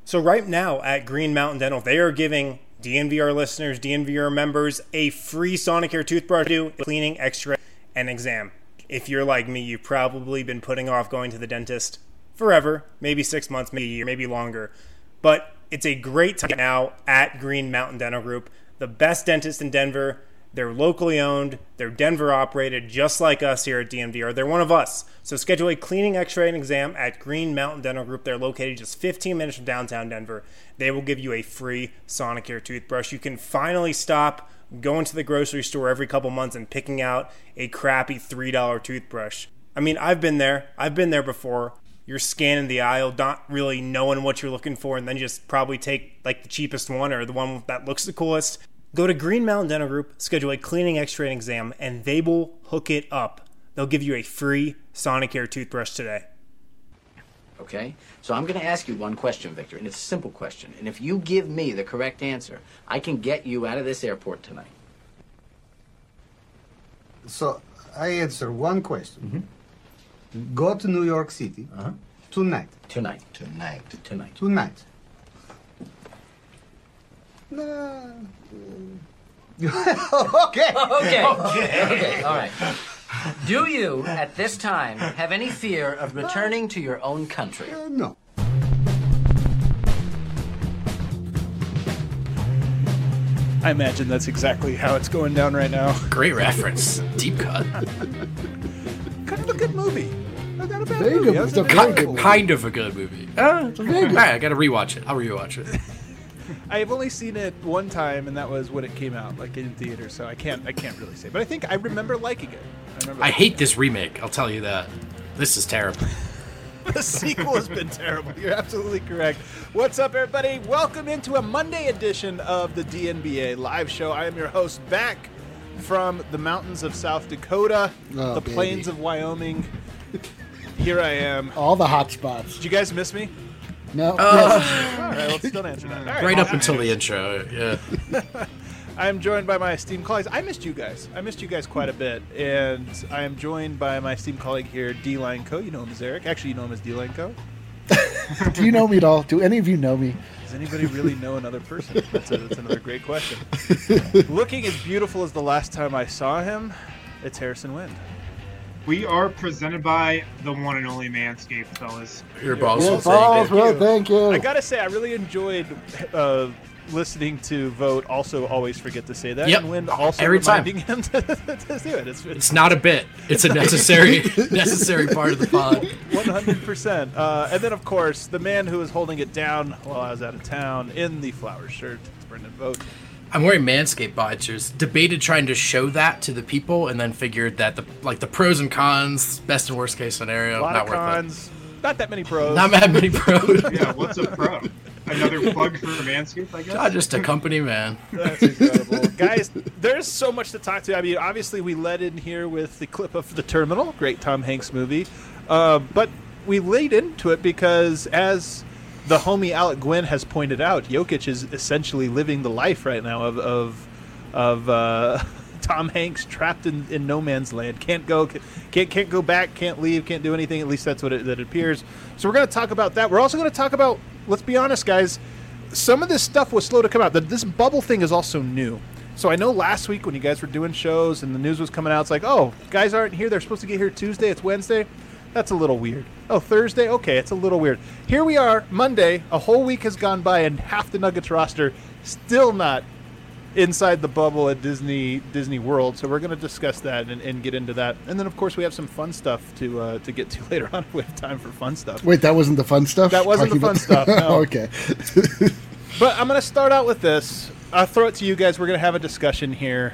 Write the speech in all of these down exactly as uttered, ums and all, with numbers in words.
So right now at Green Mountain Dental, they are giving D N V R listeners, D N V R members, a free Sonicare toothbrush to do cleaning, x-ray, and exam. If you're like me, you've probably been putting off going to the dentist forever, maybe six months, maybe a year, maybe longer. But it's a great time now at Green Mountain Dental Group, the best dentist in Denver. They're locally owned. They're Denver operated, just like us here at D N V R. They're one of us. So schedule a cleaning, x-ray, and exam at Green Mountain Dental Group. They're located just fifteen minutes from downtown Denver. They will give you a free Sonicare toothbrush. You can finally stop going to the grocery store every couple months and picking out a crappy three dollar toothbrush. I mean, I've been there. I've been there before. You're scanning the aisle, not really knowing what you're looking for, and then just probably take like the cheapest one or the one that looks the coolest. Go to Green Mountain Dental Group, schedule a cleaning, x-ray, and exam, and they will hook it up. They'll give you a free Sonicare toothbrush today. Okay? So I'm going to ask you one question, Victor, and it's a simple question. And if you give me the correct answer, I can get you out of this airport tonight. So I answer one question. Mm-hmm. Go to New York City uh-huh. tonight. Tonight. Tonight. Tonight. Tonight. No. okay. okay. Okay. Okay. All right. Do you, at this time, have any fear of returning to your own country? Uh, no. I imagine that's exactly how it's going down right now. Great reference. Deep cut. Kind of a good movie. Not a bad Very movie. good. That was a It's a very Ki- cool kind of a good movie. Uh, all right, I got to rewatch it. I'll rewatch it. I have only seen it one time, and that was when it came out, like in theater. So I can't, I can't really say. But I think I remember liking it. I, remember I hate this remake. I'll tell you that. This is terrible. The sequel has been terrible. You're absolutely correct. What's up, everybody? Welcome into a Monday edition of the D N B A live show. I am your host, back from the mountains of South Dakota, Oh, the baby. plains of Wyoming. Here I am. All the hot spots. Did you guys miss me? No. Uh, yes. All right, let's don't answer that. All right, right up well, until the intro. Yeah. I'm joined by my esteemed colleagues. I missed you guys. I missed you guys quite a bit. And I am joined by my esteemed colleague here, D-Line Co. You know him as Eric. Actually, you know him as D-Line Co. Do you know me at all? Do any of you know me? Does anybody really know another person? That's, a, that's another great question. Looking as beautiful as the last time I saw him, it's Harrison Wind. We are presented by the one and only Manscaped, fellas. Your boss Yeah, will say balls, that. bro. Thank you. I gotta say, I really enjoyed uh, listening to Vote. Also, always forget to say that. Yep. And Wind also Every time. reminding him to, to do it. It's, It's not a bit. It's a necessary necessary part of the pod. one hundred percent. Uh, and then, of course, the man who was holding it down while I was out of town in the flower shirt, it's Brendan Vogt. I'm wearing Manscaped boxers. Debated trying to show that to the people, and then figured that the like the pros and cons, best and worst case scenario, A lot not of worth cons, not that many pros. it. Not that many pros. Yeah, what's a pro? Another plug for Manscaped, I guess? I'm just a company man. That's incredible. Guys, there's so much to talk to. I mean, obviously, we led in here with the clip of The Terminal, great Tom Hanks movie. Uh, but we laid into it because, as the homie Alec Gwynn has pointed out, Jokic is essentially living the life right now of of, of uh, Tom Hanks trapped in, in no man's land. Can't go, can't can't go back, can't leave, can't do anything. At least that's what it, that it appears. So we're going to talk about that. We're also going to talk about, let's be honest, guys, some of this stuff was slow to come out. The, this bubble thing is also new. So I know last week when you guys were doing shows and the news was coming out, it's like, oh, guys aren't here. They're supposed to get here Tuesday. It's Wednesday. That's a little weird. Oh, Thursday? Okay, it's a little weird. Here we are, Monday. A whole week has gone by, and half the Nuggets roster still not inside the bubble at Disney Disney World. So we're going to discuss that and, and get into that. And then, of course, we have some fun stuff to uh, to get to later on. We have time for fun stuff. Wait, that wasn't the fun stuff? That wasn't the Talking fun about- stuff, no. Okay. But I'm going to start out with this. I'll throw it to you guys. We're going to have a discussion here.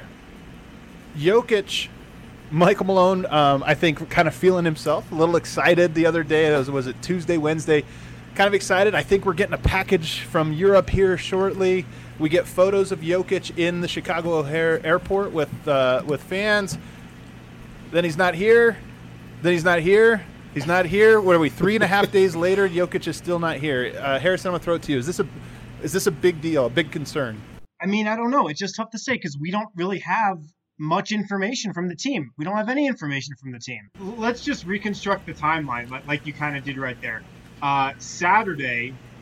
Jokic, Michael Malone, um, I think, kind of feeling himself, a little excited the other day. It was, was it Tuesday, Wednesday? Kind of excited. I think we're getting a package from Europe here shortly. We get photos of Jokic in the Chicago O'Hare Airport with uh, with fans. Then he's not here. Then he's not here. He's not here. What are we? Three and a half days later, Jokic is still not here. Uh, Harrison, I'm gonna throw it to you. Is this a is this a big deal? A big concern? I mean, I don't know. It's just tough to say because we don't really have much information from the team. We don't have any information from the team. Let's just reconstruct the timeline like, like you kind of did right there. Uh, Saturday,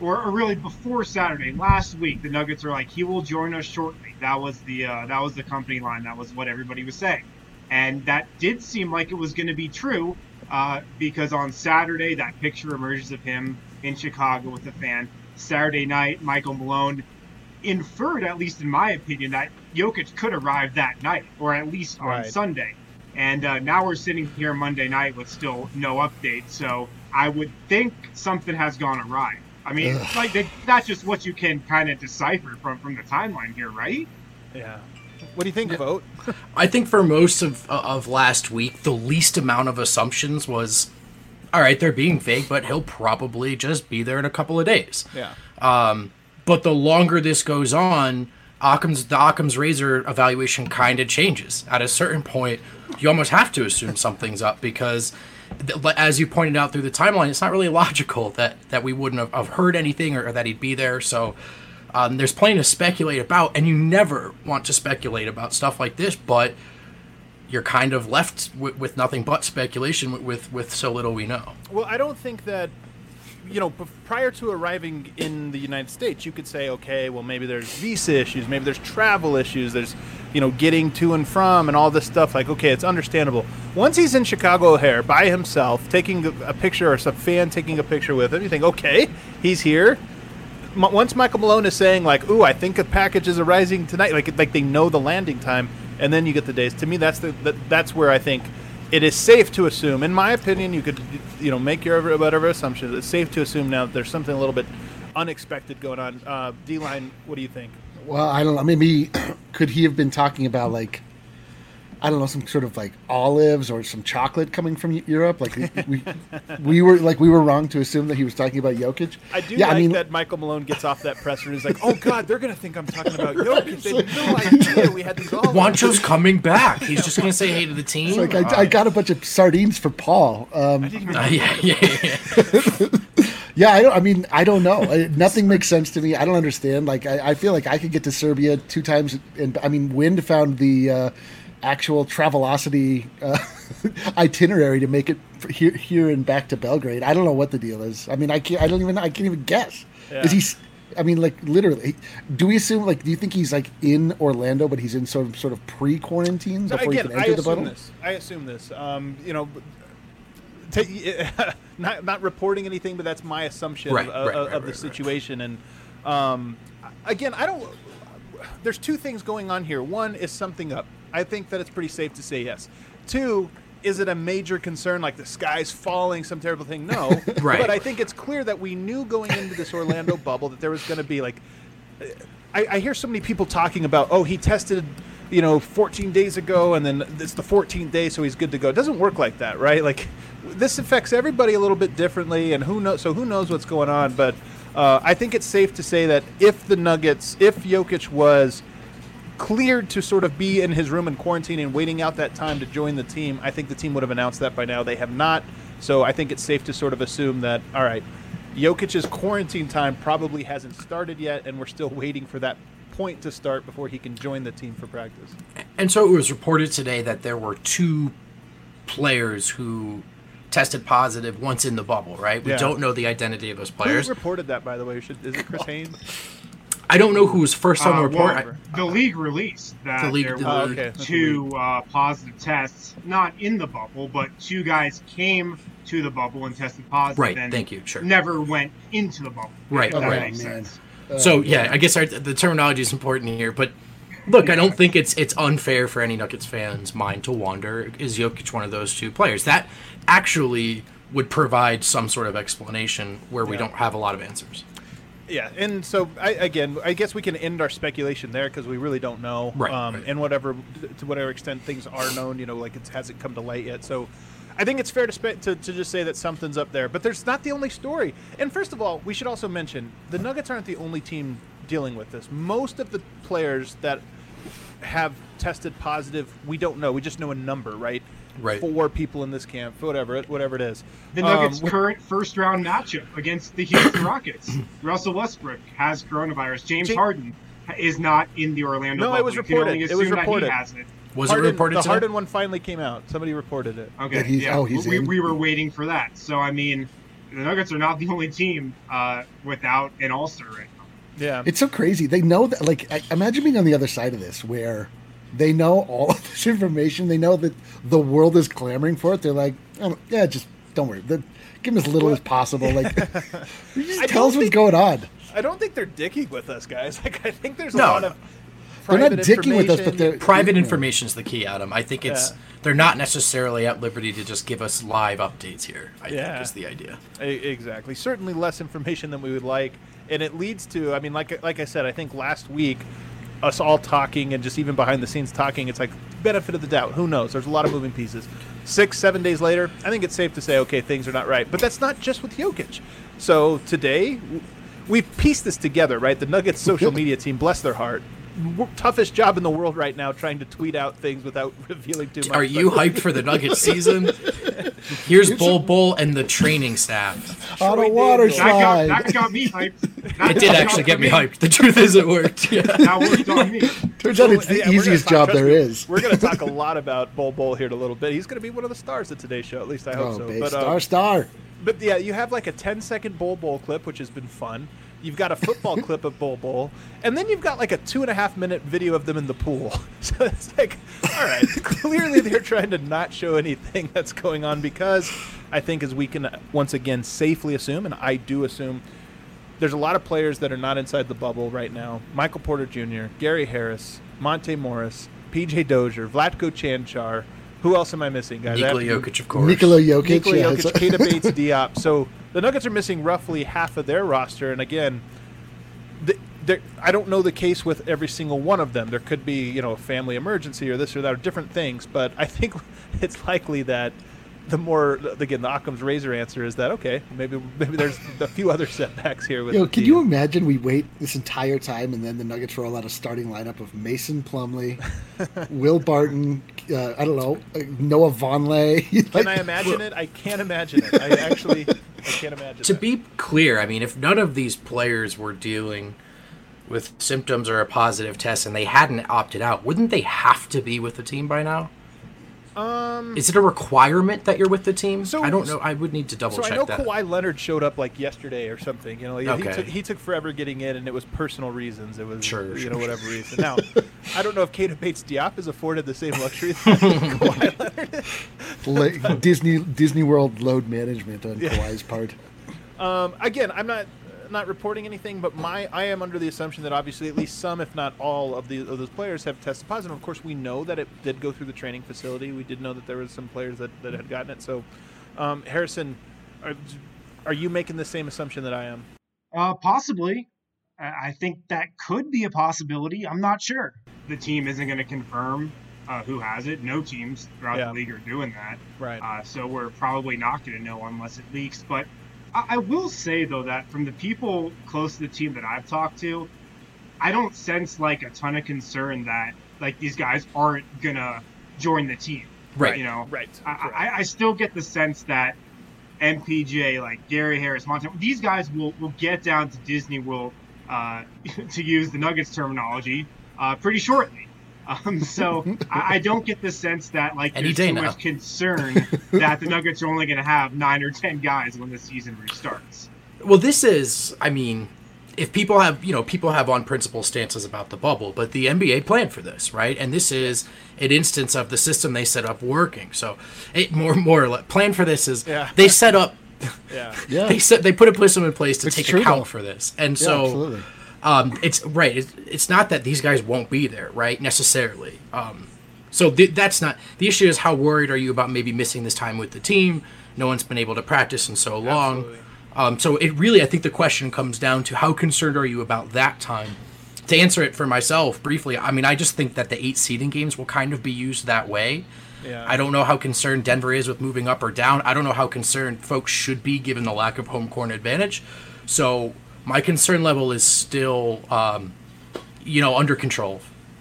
or, or really before Saturday, last week, the Nuggets are like, he will join us shortly. That was the uh, that was the company line. That was what everybody was saying. And that did seem like it was going to be true uh, because on Saturday, that picture emerges of him in Chicago with a fan. Saturday night, Michael Malone inferred, at least in my opinion, that Jokic could arrive that night, or at least on Right. Sunday. And uh, now we're sitting here Monday night with still no update. So I would think something has gone awry. I mean, Ugh. like they, that's just what you can kind of decipher from, from the timeline here, right? Yeah. What do you think, Vote? I think for most of of last week, the least amount of assumptions was, all right, they're being vague, but he'll probably just be there in a couple of days. Yeah. Um, but the longer this goes on, Occam's the Occam's razor evaluation kind of changes. At a certain point, you almost have to assume something's up because, th- as you pointed out through the timeline, it's not really logical that, that we wouldn't have, have heard anything or, or that he'd be there. So um, there's plenty to speculate about, and you never want to speculate about stuff like this, but you're kind of left with, with nothing but speculation with, with, with so little we know. Well, I don't think that, you know, b- prior to arriving in the United States, you could say, okay, well, maybe there's visa issues, maybe there's travel issues, there's, you know, getting to and from and all this stuff. Like, okay, it's understandable. Once he's in Chicago O'Hare by himself, taking a, a picture or some fan taking a picture with him, you think, okay, he's here. M- once Michael Malone is saying, like, ooh, I think a package is arriving tonight, like, like they know the landing time, and then you get the days. To me, that's the that, that's where I think it is safe to assume, in my opinion, you could, you know, make your whatever assumptions. It's safe to assume now that there's something a little bit unexpected going on. Uh, D-Line, what do you think? Well, I don't know. Maybe could he have been talking about like, I don't know, some sort of like olives or some chocolate coming from Eu- Europe? Like we, we were like we were wrong to assume that he was talking about Jokic. I do yeah, like I mean, that Michael Malone gets off that presser and is like, oh, God, they're going to think I'm talking about Jokic. They had no idea we had these olives. Wancho's coming back. He's just going to say hey to the team. It's like I, I got a bunch of sardines for Paul. Um, Uh, yeah, yeah, yeah. Yeah, I don't. I mean, I don't know. I, nothing makes sense to me. I don't understand. Like, I, I feel like I could get to Serbia two times, and I mean, Wind found the uh, actual Travelocity uh, itinerary to make it for here, here and back to Belgrade. I don't know what the deal is. I mean, I can't. I don't even. I can't even guess. Yeah. Is he? s- I mean, like literally. Do we assume? Like, do you think he's like in Orlando, but he's in sort of sort of pre-quarantine So before again, he can I enter the assume bubble? this. I assume this. Um, you know, ta- not not reporting anything, but that's my assumption Right, of, right, of, right, of the right, right. situation. And um, again, I don't. There's two things going on here. One is something up. I think that it's pretty safe to say yes. Two, is it a major concern, like the sky's falling, some terrible thing? No. Right. But I think it's clear that we knew going into this Orlando bubble that there was going to be like. I, I hear so many people talking about, oh, he tested, you know, fourteen days ago, and then it's the fourteenth day, so he's good to go. It doesn't work like that, right? Like, this affects everybody a little bit differently, and who knows? So who knows what's going on? But uh, I think it's safe to say that if the Nuggets, if Jokic was cleared to sort of be in his room in quarantine and waiting out that time to join the team, I think the team would have announced that by now. They have not, so I think it's safe to sort of assume that, all right, Jokic's quarantine time probably hasn't started yet, and we're still waiting for that point to start before he can join the team for practice. And so it was reported today that there were two players who tested positive once in the bubble, right? We Yeah. don't know the identity of those Who players. reported that, by the way? Should, is it Chris Haynes? I don't know who was first on the Uh, report. well, the league released that The league- there the were Oh, okay. That's two uh, positive tests, not in the bubble, but two guys came to the bubble and tested positive. Right, and thank you, sure. Never went into the bubble. Right, if that right. makes Oh, man. sense. So yeah, I guess our, the terminology is important here, but look, I don't think it's it's unfair for any Nuggets fans' mind to wonder: is Jokic one of those two players? That actually would provide some sort of explanation where we Yeah. don't have a lot of answers. Yeah, and so I, again, I guess we can end our speculation there because we really don't know. Right, Um, right. And whatever, to whatever extent things are known, you know, like it hasn't come to light yet. So I think it's fair to, spe- to to just say that something's up there. But there's not the only story. And first of all, we should also mention the Nuggets aren't the only team dealing with this. Most of the players that have tested positive, we don't know. We just know a number, right? Right. Four people in this camp, whatever it, whatever it is. The Nuggets' Um, current first round matchup against the Houston Rockets. Russell Westbrook has coronavirus. James James- Harden is not in the Orlando No, it bubble. was You can reported. only It was assume that he reported. has it. Was Harden- it reported the today? Harden one finally came out. Somebody reported it. Okay. That he's- yeah. oh, he's we, in? we were waiting for that. So I mean, the Nuggets are not the only team uh, without an all-star right now. Yeah. It's so crazy. They know that, like, I, imagine being on the other side of this where they know all of this information. They know that the world is clamoring for it. They're like, oh, yeah, just don't worry. The, give them as little as possible. Like, just tell us what's think, going on. I don't think they're dicking with us, guys. Like, I think there's a No, lot no. of They're not private dicking with us, but information. they're Private you know. information is the key, Adam. I think it's Yeah. they're not necessarily at liberty to just give us live updates here. I Yeah. think is the idea. E- Exactly. Certainly less information than we would like, and it leads to. I mean, like like I said, I think last week, us all talking and just even behind the scenes talking, it's like benefit of the doubt. Who knows? There's a lot of moving pieces. Six, seven days later, I think it's safe to say, okay, things are not right. But that's not just with Jokic. So today, w- we've pieced this together, right? The Nuggets social media team, bless their heart. W- toughest job in the world right now, trying to tweet out things without revealing too much. Are you But- hyped for the Nuggets season? Here's Bull Bull and the training staff. On a Troy water Daniels. That got, slide. that got me hyped. That It did got actually get me me. hyped. The truth is, it worked. Yeah. That worked on me. Turns out it's the Yeah, we're gonna easiest talk- job trust there me, is. We're going to talk a lot about Bol Bol here in a little bit. He's going to be one of the stars of today's show. At least I hope Oh, so. babe, But, uh, star, star. But yeah, you have like a ten second Bol Bol clip, which has been fun. You've got a football clip of Bol Bol, and then you've got like a two and a half minute video of them in the pool. So it's like, all right, clearly they're trying to not show anything that's going on because I think, as we can once again safely assume, and I do assume, there's a lot of players that are not inside the bubble right now. Michael Porter Junior, Gary Harris, Monte Morris, P J Dozier, Vlatko Chanchar. Who else am I missing, guys? Nikola I have- Jokic, of course. Nikola Jokic. Nikola yeah, Jokic, it's- Keita Bates, Diop. So the Nuggets are missing roughly half of their roster, and again, the, the, I don't know the case with every single one of them. There could be, you know, a family emergency or this or that, or different things. But I think it's likely that the more, again, the Occam's razor answer is that okay, maybe maybe there's a few other setbacks here. With Yo, the can team. you imagine we wait this entire time and then the Nuggets roll out a starting lineup of Mason Plumlee, Will Barton, uh, I don't know, uh, Noah Vonleh. Can I imagine it? I can't imagine it. I actually, I can't imagine. To that. be clear, I mean, if none of these players were dealing with symptoms or a positive test and they hadn't opted out, wouldn't they have to be with the team by now? Um, Is it a requirement that you're with the team? So- I don't know. I would need to double So check I know that. Kawhi Leonard showed up like yesterday or something. You know, he, he, Okay. took, he took forever getting in, and it was personal reasons. It was, Sure, you sure, know, sure. whatever reason. Now, I don't know if Keita Bates Diop is afforded the same luxury that Kawhi Leonard is. Like Disney Disney World load management on Kawhi's part. Um, again, I'm not not reporting anything, but my I am under the assumption that obviously at least some, if not all, of the of those players have tested positive. Of course, we know that it did go through the training facility. We did know that there was some players that, that had gotten it. So, um, Harrison, are, are you making the same assumption that I am? Uh, possibly. I I think that could be a possibility. I'm not sure. The team isn't going to confirm uh, who has it. No teams throughout Yeah. the league are doing that. Right. Uh, so we're probably not going to know unless it leaks. But I, I will say, though, that from the people close to the team that I've talked to, I don't sense like a ton of concern that like these guys aren't going to join the team. Right. You know, Right. I, I, I still get the sense that M P J, like Gary Harris, Monte, these guys will, will get down to Disney World, uh, to use the Nuggets terminology, uh, pretty shortly. Um, so I, I don't get the sense that like Any there's day too now. much concern that the Nuggets are only going to have nine or ten guys when the season restarts. Well, this is, I mean, if people have, you know, people have on principle stances about the bubble, but the N B A planned for this, right? And this is an instance of the system they set up working. So, it more more or less, plan for this is Yeah. they set up, Yeah. Yeah, they set, they put a system in place to It's take true, account though. for this, and yeah, so. absolutely. Um, it's right. It's, it's not that these guys won't be there, right? Necessarily. Um, so th- that's not the issue. Is how worried are you about maybe missing this time with the team? No one's been able to practice in so long. Absolutely. Um, so it really, I think the question comes down to how concerned are you about that time? To answer it for myself briefly, I mean, I just think that the eight seeding games will kind of be used that way. Yeah. I don't know how concerned Denver is with moving up or down. I don't know how concerned folks should be given the lack of home court advantage. So my concern level is still, um, you know, under control.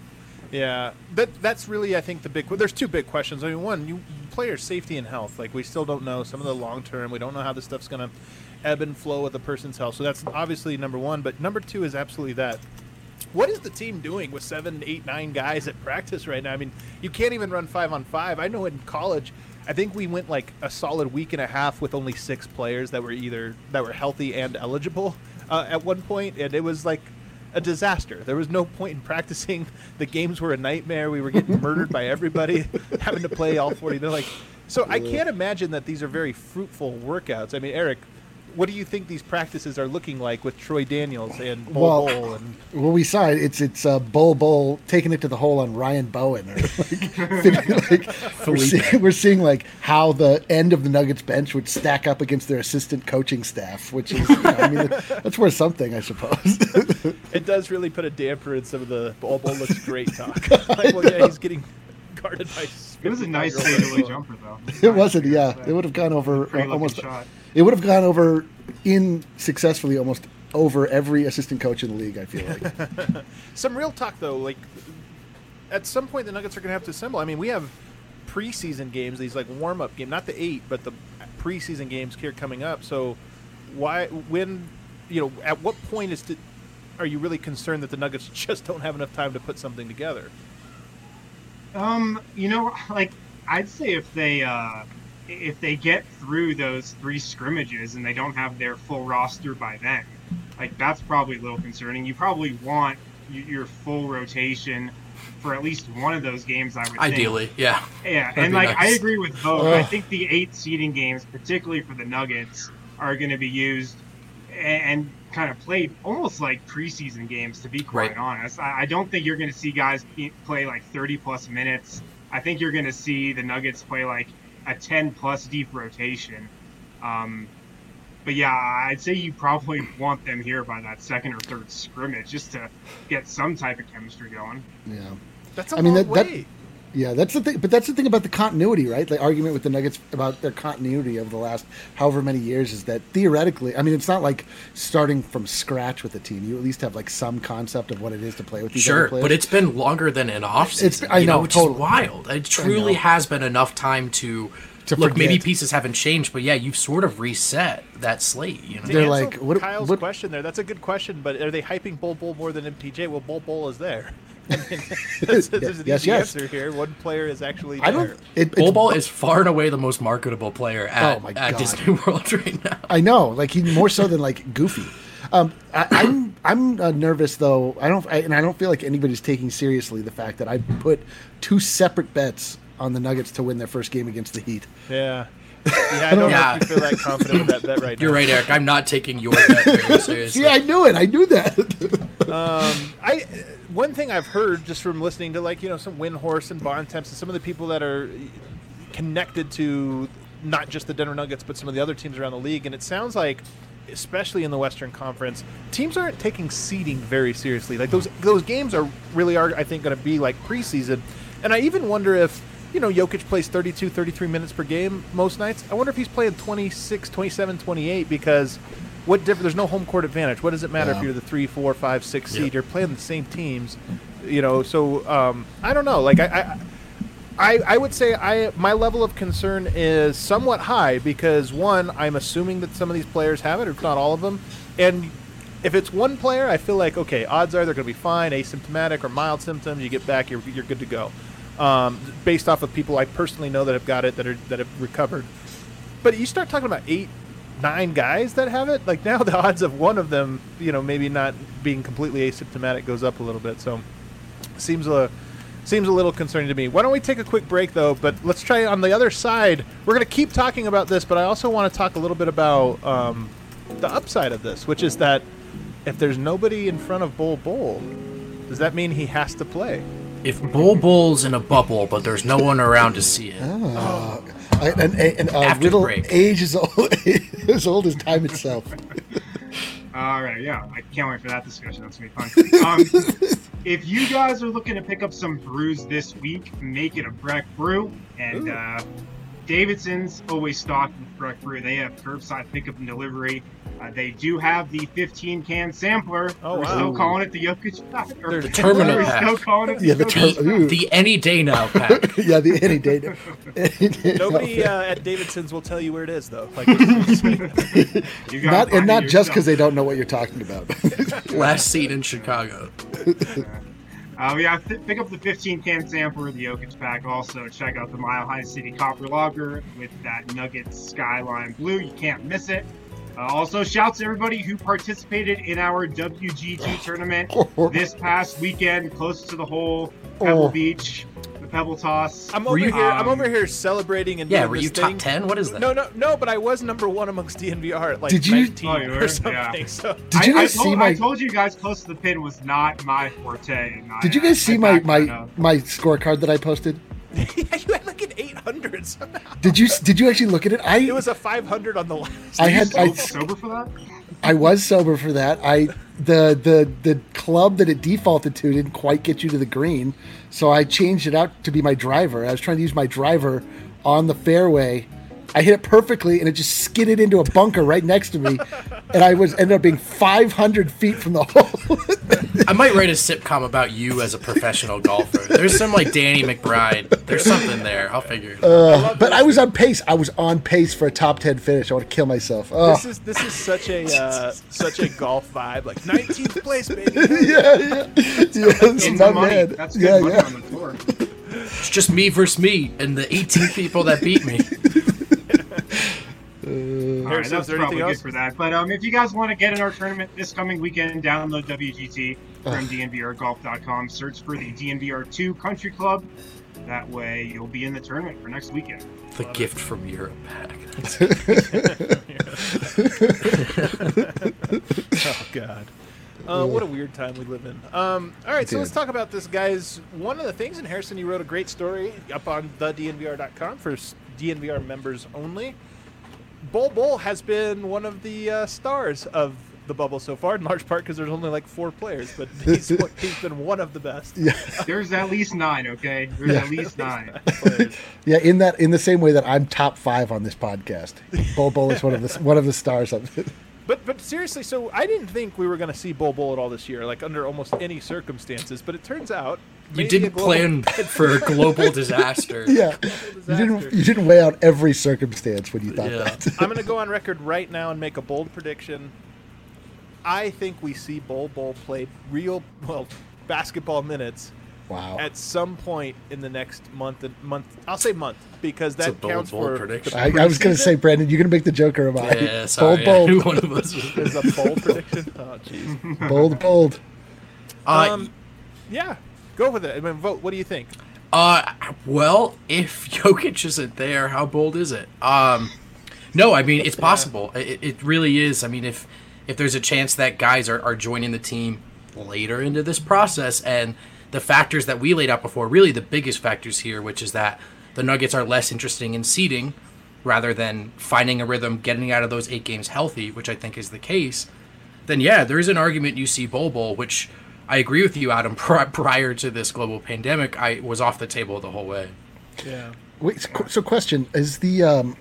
Yeah, that that's really I think the big. There's two big questions. I mean, one, you player safety and health. Like we still don't know some of the long term. We don't know how this stuff's gonna ebb and flow with a person's health. So that's obviously number one. But number two is absolutely that. What is the team doing with seven, eight, nine guys at practice right now? I mean, you can't even run five on five. I know in college, I think we went like a solid week and a half with only six players that were either that were healthy and eligible uh, at one point, and it was like a disaster. There was no point in practicing. The games were a nightmare. We were getting murdered by everybody, having to play all forty. They're like, so I can't imagine that these are very fruitful workouts. I mean, Eric, what do you think these practices are looking like with Troy Daniels and Bol Well, Bol? And well, we saw it. It's it's uh, Bol Bol taking it to the hole on Ryan Bowen. Or like, like, we're, seeing, we're seeing like how the end of the Nuggets bench would stack up against their assistant coaching staff, which is, you know, I mean, that's worth something, I suppose. it does really put a damper in some of the Bol Bol looks great talk. Like, well, yeah, he's getting guarded by. It was a nice fadeaway jumper, though. It wasn't. Yeah, it would have gone over uh, almost. Shot. It would have gone over in successfully almost over every assistant coach in the league, I feel like. Some real talk, though. Like, at some point, the Nuggets are going to have to assemble. I mean, we have preseason games, these, like, warm-up games. Not the eight, but the preseason games here coming up. So, why, when, you know, at what point is to, are you really concerned that the Nuggets just don't have enough time to put something together? Um, you know, like, I'd say if they, uh... if they get through those three scrimmages and they don't have their full roster by then, like that's probably a little concerning. You probably want your full rotation for at least one of those games, I would Ideally, think. yeah. Yeah, That'd and like nice. I agree with both. I think the eight seeding games, particularly for the Nuggets, are going to be used and, and kind of played almost like preseason games, to be quite Right. honest. I, I don't think you're going to see guys play like thirty plus minutes. I think you're going to see the Nuggets play like a ten plus deep rotation. Um, but yeah, I'd say you probably want them here by that second or third scrimmage just to get some type of chemistry going. Yeah. That's a I mean, long that- that- way. Yeah, that's the thing. But that's the thing about the continuity, right? The argument with the Nuggets about their continuity of the last however many years is that theoretically, I mean, it's not like starting from scratch with a team. You at least have like some concept of what it is to play with these other Sure, players. but it's been longer than an off It's- season. I you know, which totally. is wild. It truly know. has been enough time to, To look. Maybe forget. pieces haven't changed, but yeah, you've sort of reset that slate. You know, To They're answer like, what- Kyle's what- question there. That's a good question, but are they hyping Bol Bol more than M P J? Well, Bol Bol is there. I mean, there's, there's an Yes, easy yes. answer here. One player is actually there. I don't. It, Bol it's- Bol is far and away the most marketable player at, Oh my at God. Disney World right now. I know, like he more so than like Goofy. Um, I, I'm I'm uh, nervous though. I don't, I, and I don't feel like anybody's taking seriously the fact that I put two separate bets on the Nuggets to win their first game against the Heat. Yeah. Yeah, I don't Yeah. know if you feel that confident with that bet right You're now. right, Eric. I'm not taking your bet very seriously. See, I knew it. I knew that. Um, I one thing I've heard just from listening to like you know some Windhorse and Bontemps and some of the people that are connected to not just the Denver Nuggets but some of the other teams around the league, and it sounds like, especially in the Western Conference, teams aren't taking seeding very seriously. Like those those games are really are I think going to be like preseason, and I even wonder if you know Jokic plays thirty-two, thirty-three minutes per game most nights. I wonder if he's playing twenty-six, twenty-seven, twenty-eight because. What different? There's no home court advantage. What does it matter Yeah. if you're the three, four, five, six seed? Yeah. You're playing the same teams, you know. So um, I don't know. Like I, I, I, I would say I my level of concern is somewhat high because one, I'm assuming that some of these players have it, if not all of them, and if it's one player, I feel like okay, odds are they're going to be fine, asymptomatic or mild symptoms. You get back, you're you're good to go, um, based off of people I personally know that have got it that are that have recovered. But you start talking about eight. Nine guys that have it, like now the odds of one of them, you know, maybe not being completely asymptomatic goes up a little bit. So seems a seems a little concerning to me. Why don't we take a quick break though? But let's try on the other side. We're going to keep talking about this, but I also want to talk a little bit about um, the upside of this, which is that if there's nobody in front of Bol Bol, does that mean he has to play? If Bol Bol's in a bubble, but there's no one around to see it, Oh. I, and and uh, After Riddle break. age is old, as old as time itself. All right, yeah, I can't wait for that discussion. That's gonna be fun. Um, if you guys are looking to pick up some brews this week, make it a Breck Brew. And uh, Davidson's always stocked with Breck Brew. They have curbside pickup and delivery. Uh, they do have the fifteen can sampler. Oh, We're wow. still calling it the Jokic pack. or- There's the Terminal We're pack. still calling it the Yeah, the Jokic ter- ooh. the any day now pack. Yeah, the any day. Any day Nobody now. uh, at Davidson's will tell you where it is, though. Like, You gotta Not find and it not just because yourself. they don't know what you're talking about. Last seen in Chicago. Uh, Uh, yeah, th- pick up the fifteen can sampler of the Jokic pack. Also, check out the Mile High City Copper Lager with that Nuggets Skyline Blue. You can't miss it. Uh, also, shouts to everybody who participated in our W G T tournament this past weekend, close to the hole, Pebble Oh. Beach, the Pebble Toss. I'm over you- here. I'm um, over here celebrating and Yeah, doing were this you thing. top ten? What is that? No, no, no. But I was number one amongst D N V R at like Did you- nineteen Oh, you were? or something. Yeah. So Did you I, guys I told, see my? I told you guys close to the pin was not my forte. And Did I, you guys I see my backed that my up. my scorecard that I posted? yeah, you had like an eight hundred somehow. Did you did you actually look at it? I It was a five hundred on the last. I Were you had so- I sober for that? I was sober for that. I the the the club that it defaulted to didn't quite get you to the green, so I changed it out to be my driver. I was trying to use my driver on the fairway. I hit it perfectly, and it just skidded into a bunker right next to me, and I was ended up being five hundred feet from the hole. I might write a sitcom about you as a professional golfer. There's some like Danny McBride. There's something there. I'll figure it out. Uh, but I was on pace. I was on pace for a top ten finish. I want to kill myself. Oh. This is this is such a uh, such a golf vibe, like nineteenth place, baby. yeah, yeah, yeah. It's In not the money. bad. That's good Yeah, money yeah. on the tour. It's just me versus me and the eighteen people that beat me. All right, Harrison, that's is there probably anything good else? for that. But um, if you guys want to get in our tournament this coming weekend, download W G T from D N V R golf dot com. Search for the D N V R two Country Club. That way, you'll be in the tournament for next weekend. The gift from Europe pack. Oh God. Uh, what a weird time we live in. Um, all right, so Dude. let's talk about this, guys. One of the things, and Harrison, you wrote a great story up on the D N V R dot com for s- D N V R members only. Bol Bol has been one of the uh, stars of the bubble so far, in large part because there's only like four players, but he's, he's been one of the best. Yeah, There's at least nine, okay? There's Yeah. at least nine. Players. yeah. In that, in the same way that I'm top five on this podcast, Bol Bol is one of the one of the stars of it. But but seriously, so I didn't think we were going to see Bol Bol at all this year, like under almost any circumstances. But it turns out You maybe a didn't global- plan for a global disaster. Yeah, you disaster. didn't you didn't weigh out every circumstance when you thought Yeah. that. I'm going to go on record right now and make a bold prediction. I think we see Bol Bol play real well basketball minutes Wow. at some point in the next month and month. I'll say month because It's a that bold, counts bold for prediction. I, I was going to say, Brandon, you're going to make the Joker of mine. Yeah, sorry. bold, Who bold, one of us was is a bold prediction. Oh jeez. bold, bold. Uh, Um, yeah, go with it. I mean, vote. What do you think? Uh, well, if Jokic isn't there, how bold is it? Um, no, I mean it's possible. It, it really is. I mean, if if there's a chance that guys are, are joining the team later into this process, and the factors that we laid out before, really the biggest factors here, which is that the Nuggets are less interesting in seeding rather than finding a rhythm, getting out of those eight games healthy, which I think is the case. Then yeah, there is an argument you see Bol Bol, which I agree with you, Adam. Pri- prior to this global pandemic, I was off the table the whole way. Yeah. Wait, so, so question is the um,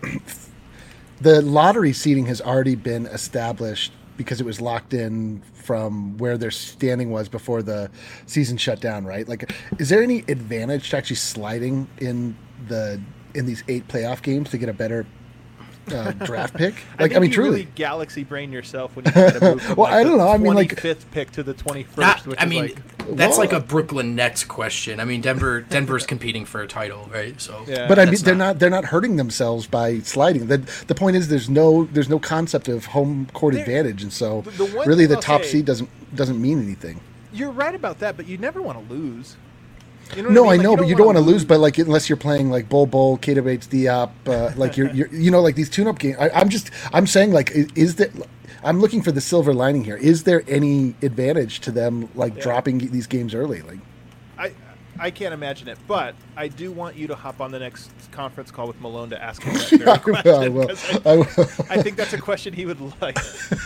the lottery seating has already been established because it was locked in from where their standing was before the season shut down, right? Like, is there any advantage to actually sliding in the in these eight playoff games to get a better uh, draft pick? I Like, think I, mean, you truly. really galaxy brain yourself when you try to move from Well, like I don't the know. I mean, like- twenty-fifth pick to the twenty-first, That- which I is mean, like, that's Well- like a Brooklyn Nets question. I mean, Denver Denver's competing for a title, right? So, Yeah. But I mean, that's they're not they're not hurting themselves by sliding. The the point is, there's no there's no concept of home court There- advantage, and so the- the one really thing the I'll top say- seed doesn't doesn't mean anything. you're right about that, but you never want to lose. You know No, what I mean? know, Like, but you don't want to lose. But like, unless you're playing like Bol Bol, Keita Bates, Diop, uh, like you're, you're, you know, like these tune-up games. I, I'm just, I'm saying, like, is, is that? I'm looking for the silver lining here. Is there any advantage to them like Yeah. dropping these games early? Like, I, I can't imagine it, but I do want you to hop on the next conference call with Malone to ask him that very I question. will. 'cause I I, will. I think that's a question he would like.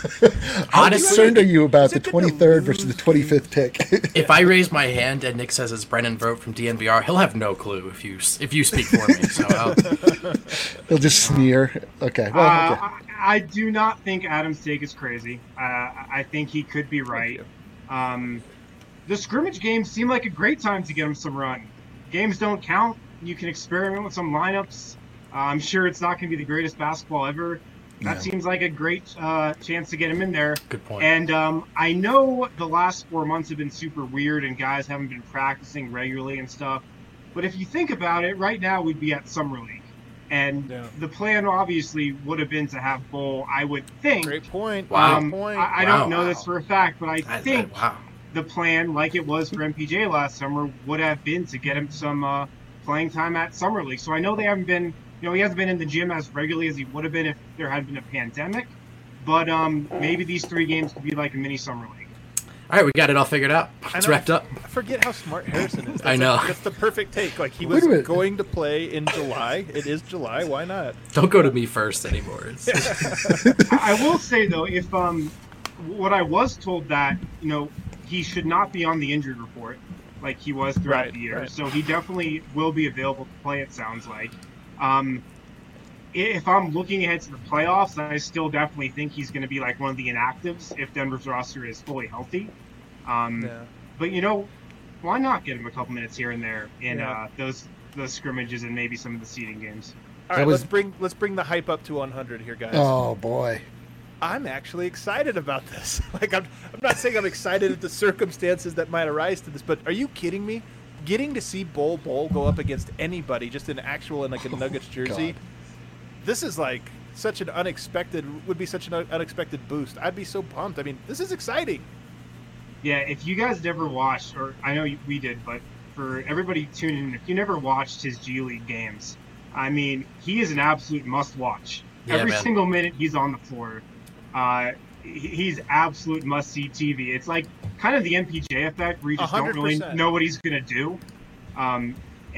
How honestly, concerned are you about is the it good to twenty-third versus lose the twenty-fifth pick? if I raise my hand and Nick says it's Brennan Vogt from D N V R, he'll have no clue if you if you speak for me. So I'll, He'll just sneer. Okay. Well, Uh, okay. I, I do not think Adam's take is crazy. Uh, I think he could be right. Um, the scrimmage games seem like a great time to get him some run. Games don't count. You can experiment with some lineups. Uh, I'm sure it's not going to be the greatest basketball ever, that Yeah. seems like a great uh, chance to get him in there. Good point. And um, I know the last four months have been super weird and guys haven't been practicing regularly and stuff. But if you think about it, right now we'd be at Summer League. And Yeah. the plan obviously would have been to have Bull, I would think. Great point. Wow. Great Um, point. I, I Wow. don't know this for a fact, but I I- I- think wow. the plan, like it was for M P J last summer, would have been to get him some uh, playing time at Summer League. So I know they haven't been, you know, he hasn't been in the gym as regularly as he would have been if there had been a pandemic. But um, maybe these three games could be like a mini Summer League. All right, we got it all figured out. I It's know, wrapped up. I forget how smart Harrison is. That's I know. Like, that's the perfect take. Like he Wait was a minute. going to play in July. It is July. Why not? Don't go to me first anymore. It's, I I will say though, if um, what I was told that you know he should not be on the injured report like he was throughout Right, the year, right. so he definitely will be available to play. It sounds like. Um, if I'm looking ahead to the playoffs, I still definitely think he's going to be like one of the inactives if Denver's roster is fully healthy. Um, Yeah. But you know, why not get him a couple minutes here and there in Yeah. uh, those those scrimmages and maybe some of the seeding games? All That right, was- let's bring let's bring the hype up to one hundred here, guys. Oh boy. I'm actually excited about this. Like I'm, I'm not saying I'm excited at the circumstances that might arise to this, but are you kidding me? Getting to see Bol Bol go up against anybody, just an actual in like a Nuggets jersey, God. this is like such an unexpected would be such an un- unexpected boost. I'd be so pumped. I mean, this is exciting. Yeah, if you guys never watched, or I know you- we did, but for everybody tuning in, if you never watched his G League games, I mean, he is an absolute must-watch. Yeah, Every man. single minute he's on the floor, uh, he- he's absolute must-see T V. It's like kind of the M P J effect, where you just one don't hundred really percent. know what he's gonna do. Um,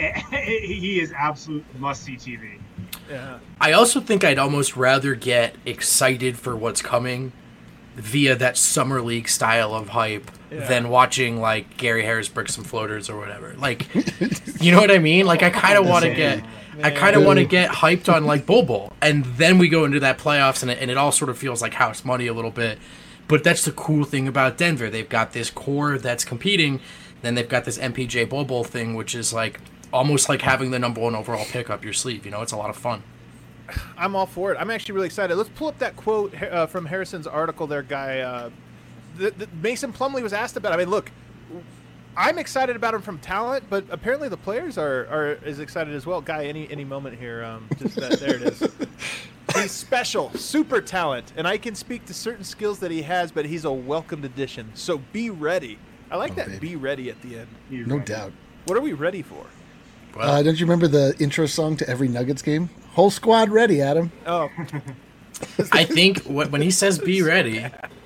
he is absolute must-see T V. Yeah. I also think I'd almost rather get excited for what's coming via that summer league style of hype Yeah. than watching like Gary Harris brick some floaters or whatever. Like, you know what I mean? Like, I kind of want to get, I kind of want to get hyped on like Bol Bol, and then we go into that playoffs, and it, and it all sort of feels like house money a little bit. But that's the cool thing about Denver. They've got this core that's competing, then they've got this M P J Bol Bol thing, which is like almost like having the number one overall pick up your sleeve. You know, it's a lot of fun. I'm all for it. I'm actually really excited. Let's pull up that quote uh, from Harrison's article there, guy. Uh, the, the Mason Plumlee was asked about. I mean, look, I'm excited about him from talent, but apparently the players are, are as excited as well. Guy, any any moment here, um, just that, there it is. He's special, super talent, and I can speak to certain skills that he has, but he's a welcomed addition. So be ready. I like Oh, that. baby. Be ready at the end. You're No right. doubt. What are we ready for? Well, Uh, don't you remember the intro song to every Nuggets game? Whole squad ready, Adam. Oh, I think wh- when he says "be ready,"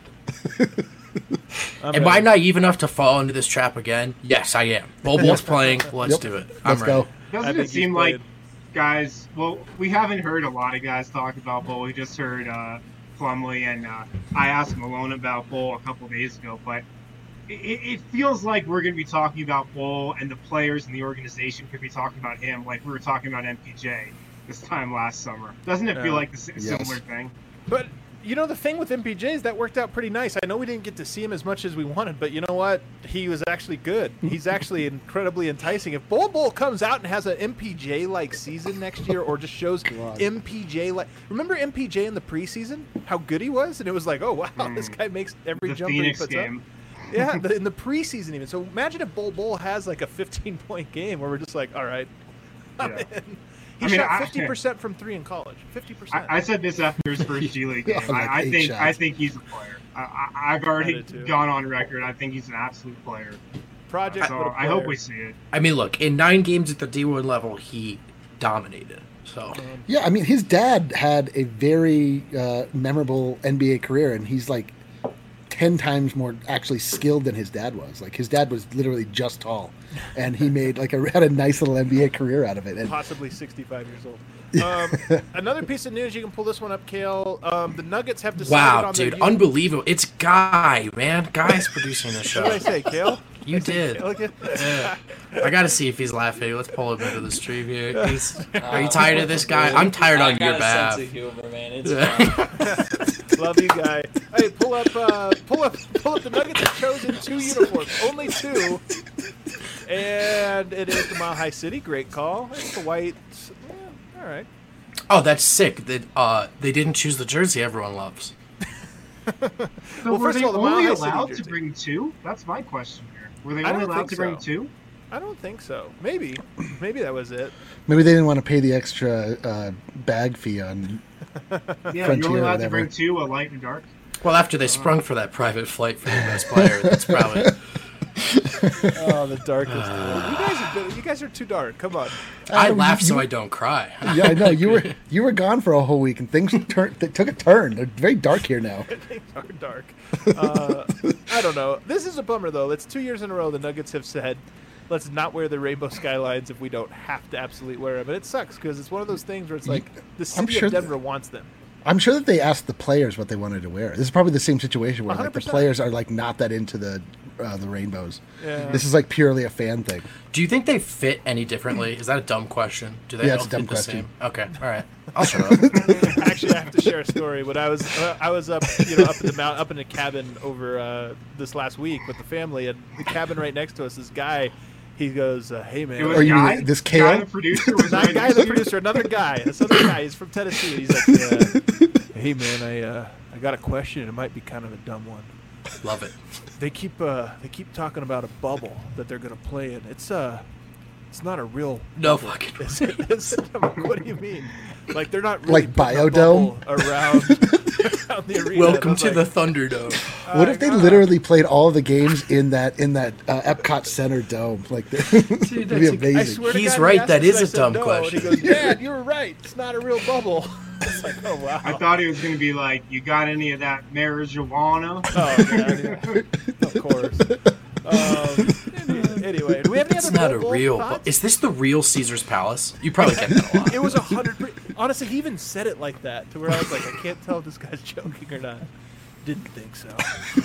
I'm am I ready. naive enough to fall into this trap again? Yes, I am. Bol Bol's playing. Let's Yep. do it. I'm Let's ready. go. Doesn't I it think he's seem like played. guys? Well, we haven't heard a lot of guys talk about Bull. We just heard uh, Plumlee, and uh, I asked Malone about Bull a couple days ago. But it, it feels like we're going to be talking about Bull, and the players and the organization could be talking about him, like we were talking about M P J this time last summer. Doesn't it Yeah. feel like a s- Yes. similar thing? But you know the thing with M P J is that worked out pretty nice. I know we didn't get to see him as much as we wanted, but you know what? He was actually good. He's actually incredibly enticing. If Bol Bol comes out and has an M P J like season next year, or just shows God. M P J like, remember M P J in the preseason? How good he was, and it was like, oh wow, this guy makes every The jumper Phoenix he puts game. up. Yeah, the, in the preseason even. So imagine if Bol Bol has like a fifteen point game where we're just like, all right, I'm Yeah. in. He I mean, shot I- fifty percent from three in college. Fifty percent. I, I said this after his first G League game. Like I, I eight think shots. I think he's a player. I, I, I've already I did too. gone on record. I think he's an absolute player. Project. So but a I hope player. we see it. I mean, look, in nine games at the D one level, he dominated. So Yeah, I mean, his dad had a very uh, memorable N B A career, and he's like ten times more actually skilled than his dad was. Like his dad was literally just tall, and he made like a had a nice little N B A career out of it. And Possibly sixty-five years old. Um, another piece of news, you can pull this one up, Kale. Um, the Nuggets have decided wow, on their dude, uni- unbelievable! It's Guy, man. Guy's producing the What show. did I say, Kale? You did. Look at- Yeah. I gotta see if he's laughing. Let's pull him into the stream here. He's, are you tired of this guy? I'm tired I on got your a behalf. sense of humor, man. It's fine. Love you, guy. Hey, pull up, uh, pull up, pull up. The Nuggets have chosen two uniforms, only two, and it is the Mile High City. Great call. It's the white. Yeah, all right. Oh, that's sick. That uh, they didn't choose the jersey everyone loves. So Well, were first they of all, the Mile only High City allowed jersey. to bring two? That's my question here. Were they I only don't allowed think to bring so. two? I don't think so. Maybe, maybe that was it. Maybe they didn't want to pay the extra uh, bag fee on. Yeah, Frontier you're only or allowed to whatever. bring two, a light and a dark. Well, after they sprung for that private flight for the best player, that's probably. Oh, the darkest. you guys are good. You guys are too dark. Come on. I you- laugh you- so I don't cry. Yeah, I know you were you were gone for a whole week, and things turned they took a turn. They're very dark here now. Things are dark. Uh, I don't know. This is a bummer, though. It's two years in a row the Nuggets have said, let's not wear the rainbow skylines if we don't have to absolutely wear them. And it sucks because it's one of those things where it's like the I'm city sure of that- Denver wants them. I'm sure that they asked the players what they wanted to wear. This is probably the same situation where one hundred like the percent. players are like not that into the uh, the rainbows. Yeah. This is like purely a fan thing. Do you think they fit any differently? Is that a dumb question? Do they Yeah, all it's a dumb fit the question. same? Okay, all right. I'll shut up. Actually, I have to share a story. When I was uh, I was up, you know, up in the mount, up in a cabin over uh, this last week with the family, and the cabin right next to us, this guy, he goes, uh, "Hey man." It was Or a you mean guy, this guy, Kale? the producer, was Not right guy, next the to you. producer, another guy, this other guy. He's from Tennessee. And he's like, uh, "Hey man, I uh, I got a question. It might be kind of a dumb one. Love it. They keep uh, they keep talking about a bubble that they're gonna play in. It's uh, it's not a real No bubble. fucking. Is it? Is it? I'm like, what do you mean? Like they're not really Like putting a Biodome? bubble around, around the arena." Welcome And to I'm the like, Thunderdome. What if they God. literally played all of the games in that in that uh, Epcot Center dome? Like, it'd be that's a- amazing. I swear to He's God, right, he asked that us, is I a said dumb no, question. And he goes, "Dad, you were right. It's not a real bubble." It's like, oh wow. I thought he was going to be like, you got any of that marijuana? Oh, God, yeah. Of course. Um, anyway, do we have any It's other not a Bowl real. thoughts? Bu- is this the real Caesar's Palace? You probably get that a lot. It was a hundred. per- Honestly, he even said it like that to where I was like, I can't tell if this guy's joking or not. Didn't think so.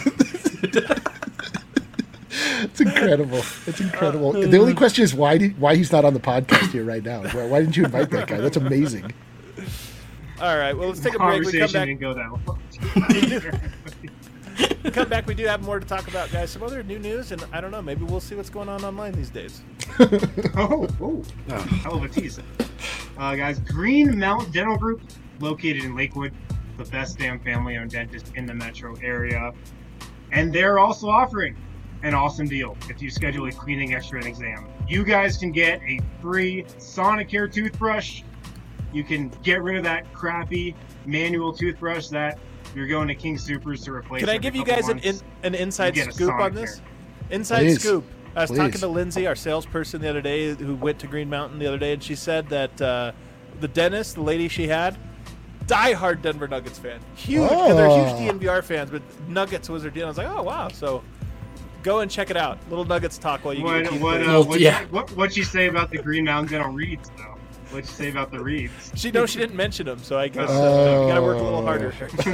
It's incredible. It's incredible. The only question is why did, why he's not on the podcast here right now. Why, why didn't you invite that guy? That's amazing. All right, well, let's take a break. We come Conversation back. didn't go that well. We come back. We do have more to talk about, guys. Some other new news, and I don't know. Maybe we'll see what's going on online these days. Oh, oh, hell of a tease. Uh, guys, Green Mountain Dental Group, located in Lakewood, the best damn family-owned dentist in the metro area. And they're also offering an awesome deal if you schedule a cleaning, x-ray, and exam. You guys can get a free Sonicare toothbrush. You can get rid of that crappy manual toothbrush that you're going to King Supers to replace. Can I every give you couple guys an months. in, an inside You get a scoop on Sonicare. this? Inside Please. scoop. I was Please. talking to Lindsay, our salesperson, the other day, who went to Green Mountain the other day, and she said that uh, the dentist, the lady she had, diehard Denver Nuggets fan. Huge. And they're huge Oh. D N V R fans, but Nuggets was their deal. I was like, oh, wow. So go and check it out. Little Nuggets talk while you get What your teeth what cleaned. uh, Well, what, yeah. what what'd you say about the Green Mountain Dental reeds though? What'd you say about the reeds? She knows she didn't mention them, so I guess uh, we got to work a little harder.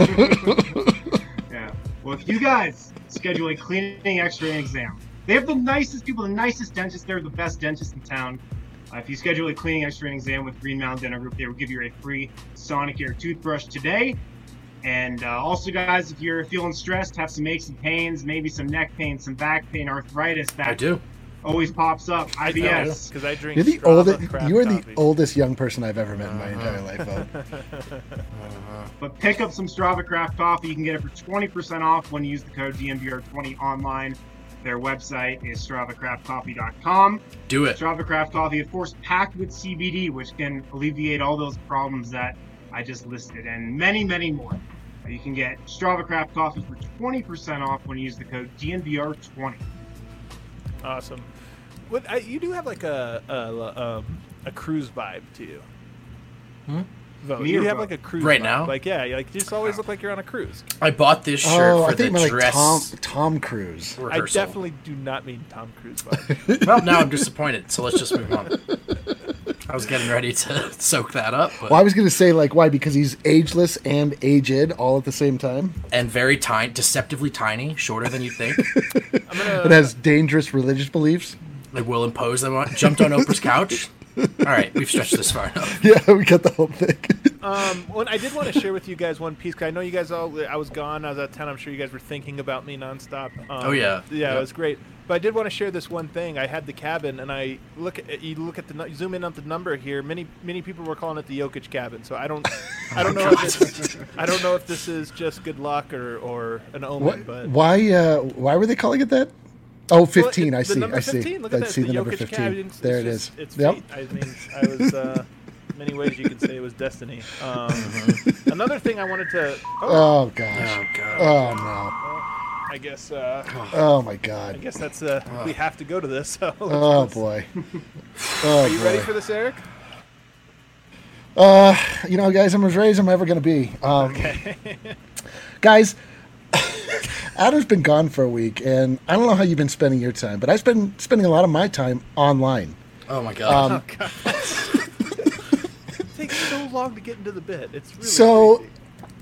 Yeah. Well, if you guys schedule a cleaning, x-ray, and exam, they have the nicest people, the nicest dentists. They're the best dentists in town. Uh, if you schedule a cleaning, x-ray, and exam with Green Mountain Dental Group, they will give you a free Sonicare toothbrush today. And uh, also, guys, if you're feeling stressed, have some aches and pains, maybe some neck pain, some back pain, arthritis, that I do. always pops up. I B S. Because I drink You're the Strava oldest. craft You are the coffee. oldest young person I've ever met in my entire life. Bo. But pick up some Strava Craft coffee. You can get it for twenty percent off when you use the code D N V R twenty online. Their website is strava craft coffee dot com. Do it. Strava Craft coffee, of course, packed with C B D, which can alleviate all those problems that I just listed and many, many more. Uh, You can get Strava Craft coffee for twenty percent off when you use the code D N V R twenty. Awesome. What I, you do have like a a, um, a cruise vibe to you. Hmm? Vote. Me You or have Vote? like a cruise Right vibe. now? Like yeah, you like you just always look like you're on a cruise. I bought this shirt Oh, for I think the my like dress Tom Tom Cruise. I rehearsal. definitely do not mean Tom Cruise vibe. Well, now I'm disappointed. So let's just move on. I was getting ready to soak that up, but Well, I was going to say like why because he's ageless and aged all at the same time. and very tiny, deceptively tiny, shorter than you think. I'm gonna. It has dangerous religious beliefs. Like will impose them on. Jumped on Oprah's couch. All right, we've stretched this far enough. Yeah, we got the whole thing. Um, well, I did want to share with you guys one piece. 'Cause I know you guys all. I was gone. I was out of town. I'm sure you guys were thinking about me nonstop. Um, Oh, yeah. Yeah, Yep. it was great. But I did want to share this one thing. I had the cabin, and I look at you look at the nu- zoom in on the number here. Many many people were calling it the Jokic cabin. So I don't I don't know if this, I don't know if this is just good luck or, or an omen. What, but why uh, why were they calling it that? Oh, fifteen. Well, it, I the see. number I see. fifteen, look I at that. see the the number Jokic fifteen. cabin. It's There it just, is. It's Yep. fate. I mean, I was uh, many ways you could say it was destiny. Um, another thing I wanted to. Oh, Oh gosh. Oh god. Oh no. I guess. Uh, Oh my I god. guess that's. Uh, we have to go to this. So let's- Oh let's- boy. Oh Are you ready boy. for this, Eric? Uh, you know, guys, I'm as ready as I'm ever going to be. Um, Okay. guys, Adam's been gone for a week, and I don't know how you've been spending your time, but I've been spending a lot of my time online. Oh my god. Um, Oh, God. It takes so long to get into the bit. It's really So- crazy.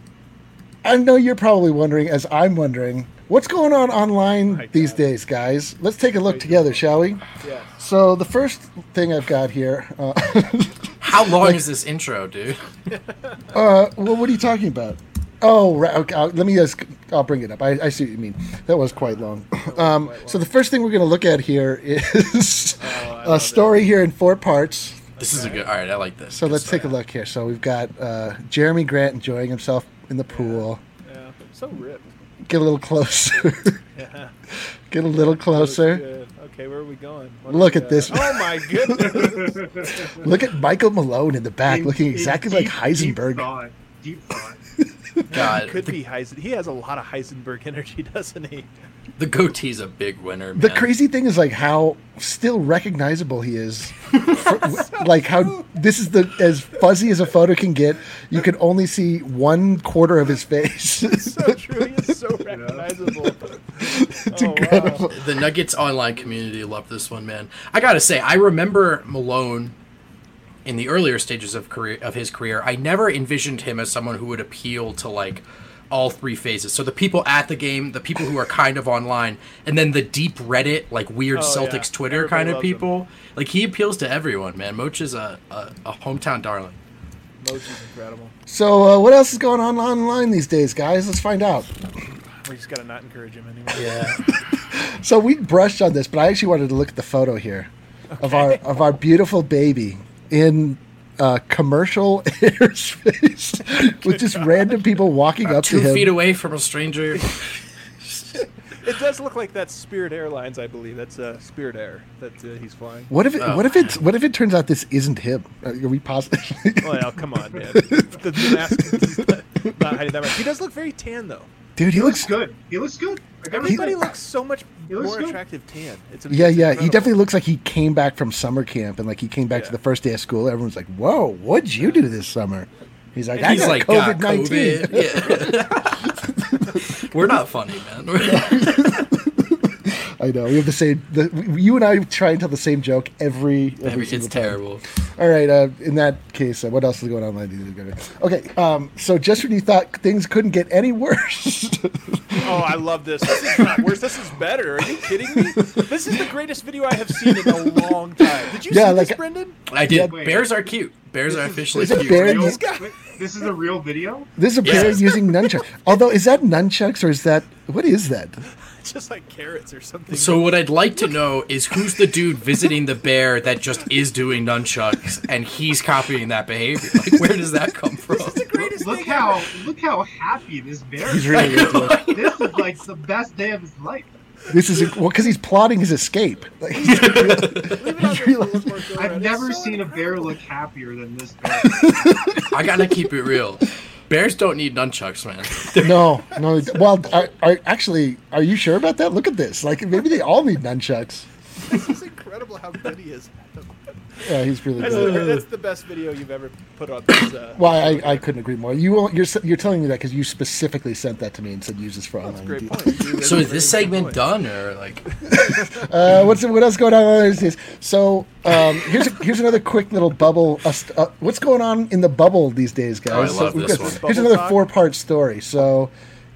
I know you're probably wondering, as I'm wondering, what's going on online my these God. days, guys? Let's take a look together, shall we? Yeah. So the first thing I've got here, uh, How long is this intro, dude? uh, well, what are you talking about? Oh, right. Okay, I'll, let me just. I'll bring it up. I, I see what you mean. That was quite long. Um, so the first thing we're going to look at here is a story here in four parts. This is a good. All right, I like this. So Good let's take a stuff. look here. So we've got uh, Jeremy Grant enjoying himself in the pool. Yeah. So ripped. Get a little closer. Yeah. Get a little closer. Good. Okay, where are we going? What do Look we at got? this. Oh my goodness. Look at Michael Malone in the back, In- looking in exactly deep- like Heisenberg. Deep thought. Deep thought. God, Could the, be Heisen. He has a lot of Heisenberg energy, doesn't he? the goatee's a big winner. The man. crazy thing is like how still recognizable he is. For- like how this is the as fuzzy as a photo can get. You can only see one quarter of his face. So true. He is so recognizable. It's Oh, incredible. wow. The Nuggets online community loved this one, man. I gotta say, I remember Malone in the earlier stages of career of his career. I never envisioned him as someone who would appeal to like all three phases. So the people at the game, the people who are kind of online, and then the deep Reddit, like weird Oh, Celtics yeah. Twitter Everybody kind of loves him. people. Like he appeals to everyone, man. Moch is a, a, a hometown darling. Mochi's incredible. So uh, what else is going on online these days, guys? Let's find out. We just gotta not encourage him anymore. Yeah. So we brushed on this, but I actually wanted to look at the photo here of our of our beautiful baby in uh, commercial airspace with just random people walking up to Two him. feet away from a stranger. It does look like that's Spirit Airlines, I believe. That's uh, Spirit Air that uh, he's flying. What if it, Oh. what if it's what if it turns out this isn't him? Are we positive? Well, come on, man. The, the mask is not, not hiding that much. He does look very tan, though. Dude, he He looks looks good. He looks good. I gotta Everybody say. looks so much He looks more good. attractive tan. It's Yeah, it's yeah. He incredible. definitely looks like he came back from summer camp and like he came back to Yeah. the first day of school. Everyone's like, "Whoa, what'd you do this summer?" He's like, "I He's got like COVID got nineteen." COVID. Yeah. We're not funny, man. I know. We have the same. The, you and I try and tell the same joke every. every Every- single it's time. terrible. All right. Uh, in that case, uh, what else is going on? online? Okay. Um, so just when you thought things couldn't get any worse, Oh, I love this. This is not worse. This is better. Are you kidding me? This is the greatest video I have seen in a long time. Did you Yeah, see like- this, Brendan? I did. Wait. Bears are cute. Bears are officially is it cute. bear? Real- Use, Wait, this is a real video? this is a bear Yes. using nunchucks. Although, is that nunchucks or is that what is that? It's just like carrots or something. So what I'd like to know is who's the dude visiting the bear that just is doing nunchucks and he's copying that behavior? Like, where does that come from? the greatest Look thing how ever. look how happy this bear He's is. really into it. This is like the best day of his life. This is well because he's plotting his escape. Like, Leave it on there for one more go I've around. never It's so seen a bear incredible. look happier than this bear. I gotta keep it real. Bears don't need nunchucks, man. no, no. Well, are, are, actually, are you sure about that? Look at this. Like maybe they all need nunchucks. This is incredible how good he is. Yeah, he's really That's good. the, that's the best video you've ever put on this. Uh, Well, I, I couldn't agree more. You won't- you're you're telling me that because you specifically sent that to me and said use this for that's a online. great deal. point. Dude, So that's is a this very good segment point. done or like? Uh, what's what else going on these days? So um, here's here's another quick little bubble. Uh, st- uh, what's going on in the bubble these days, guys? Oh, I So love we've this got- one. Here's Bubble another talk? four part story. So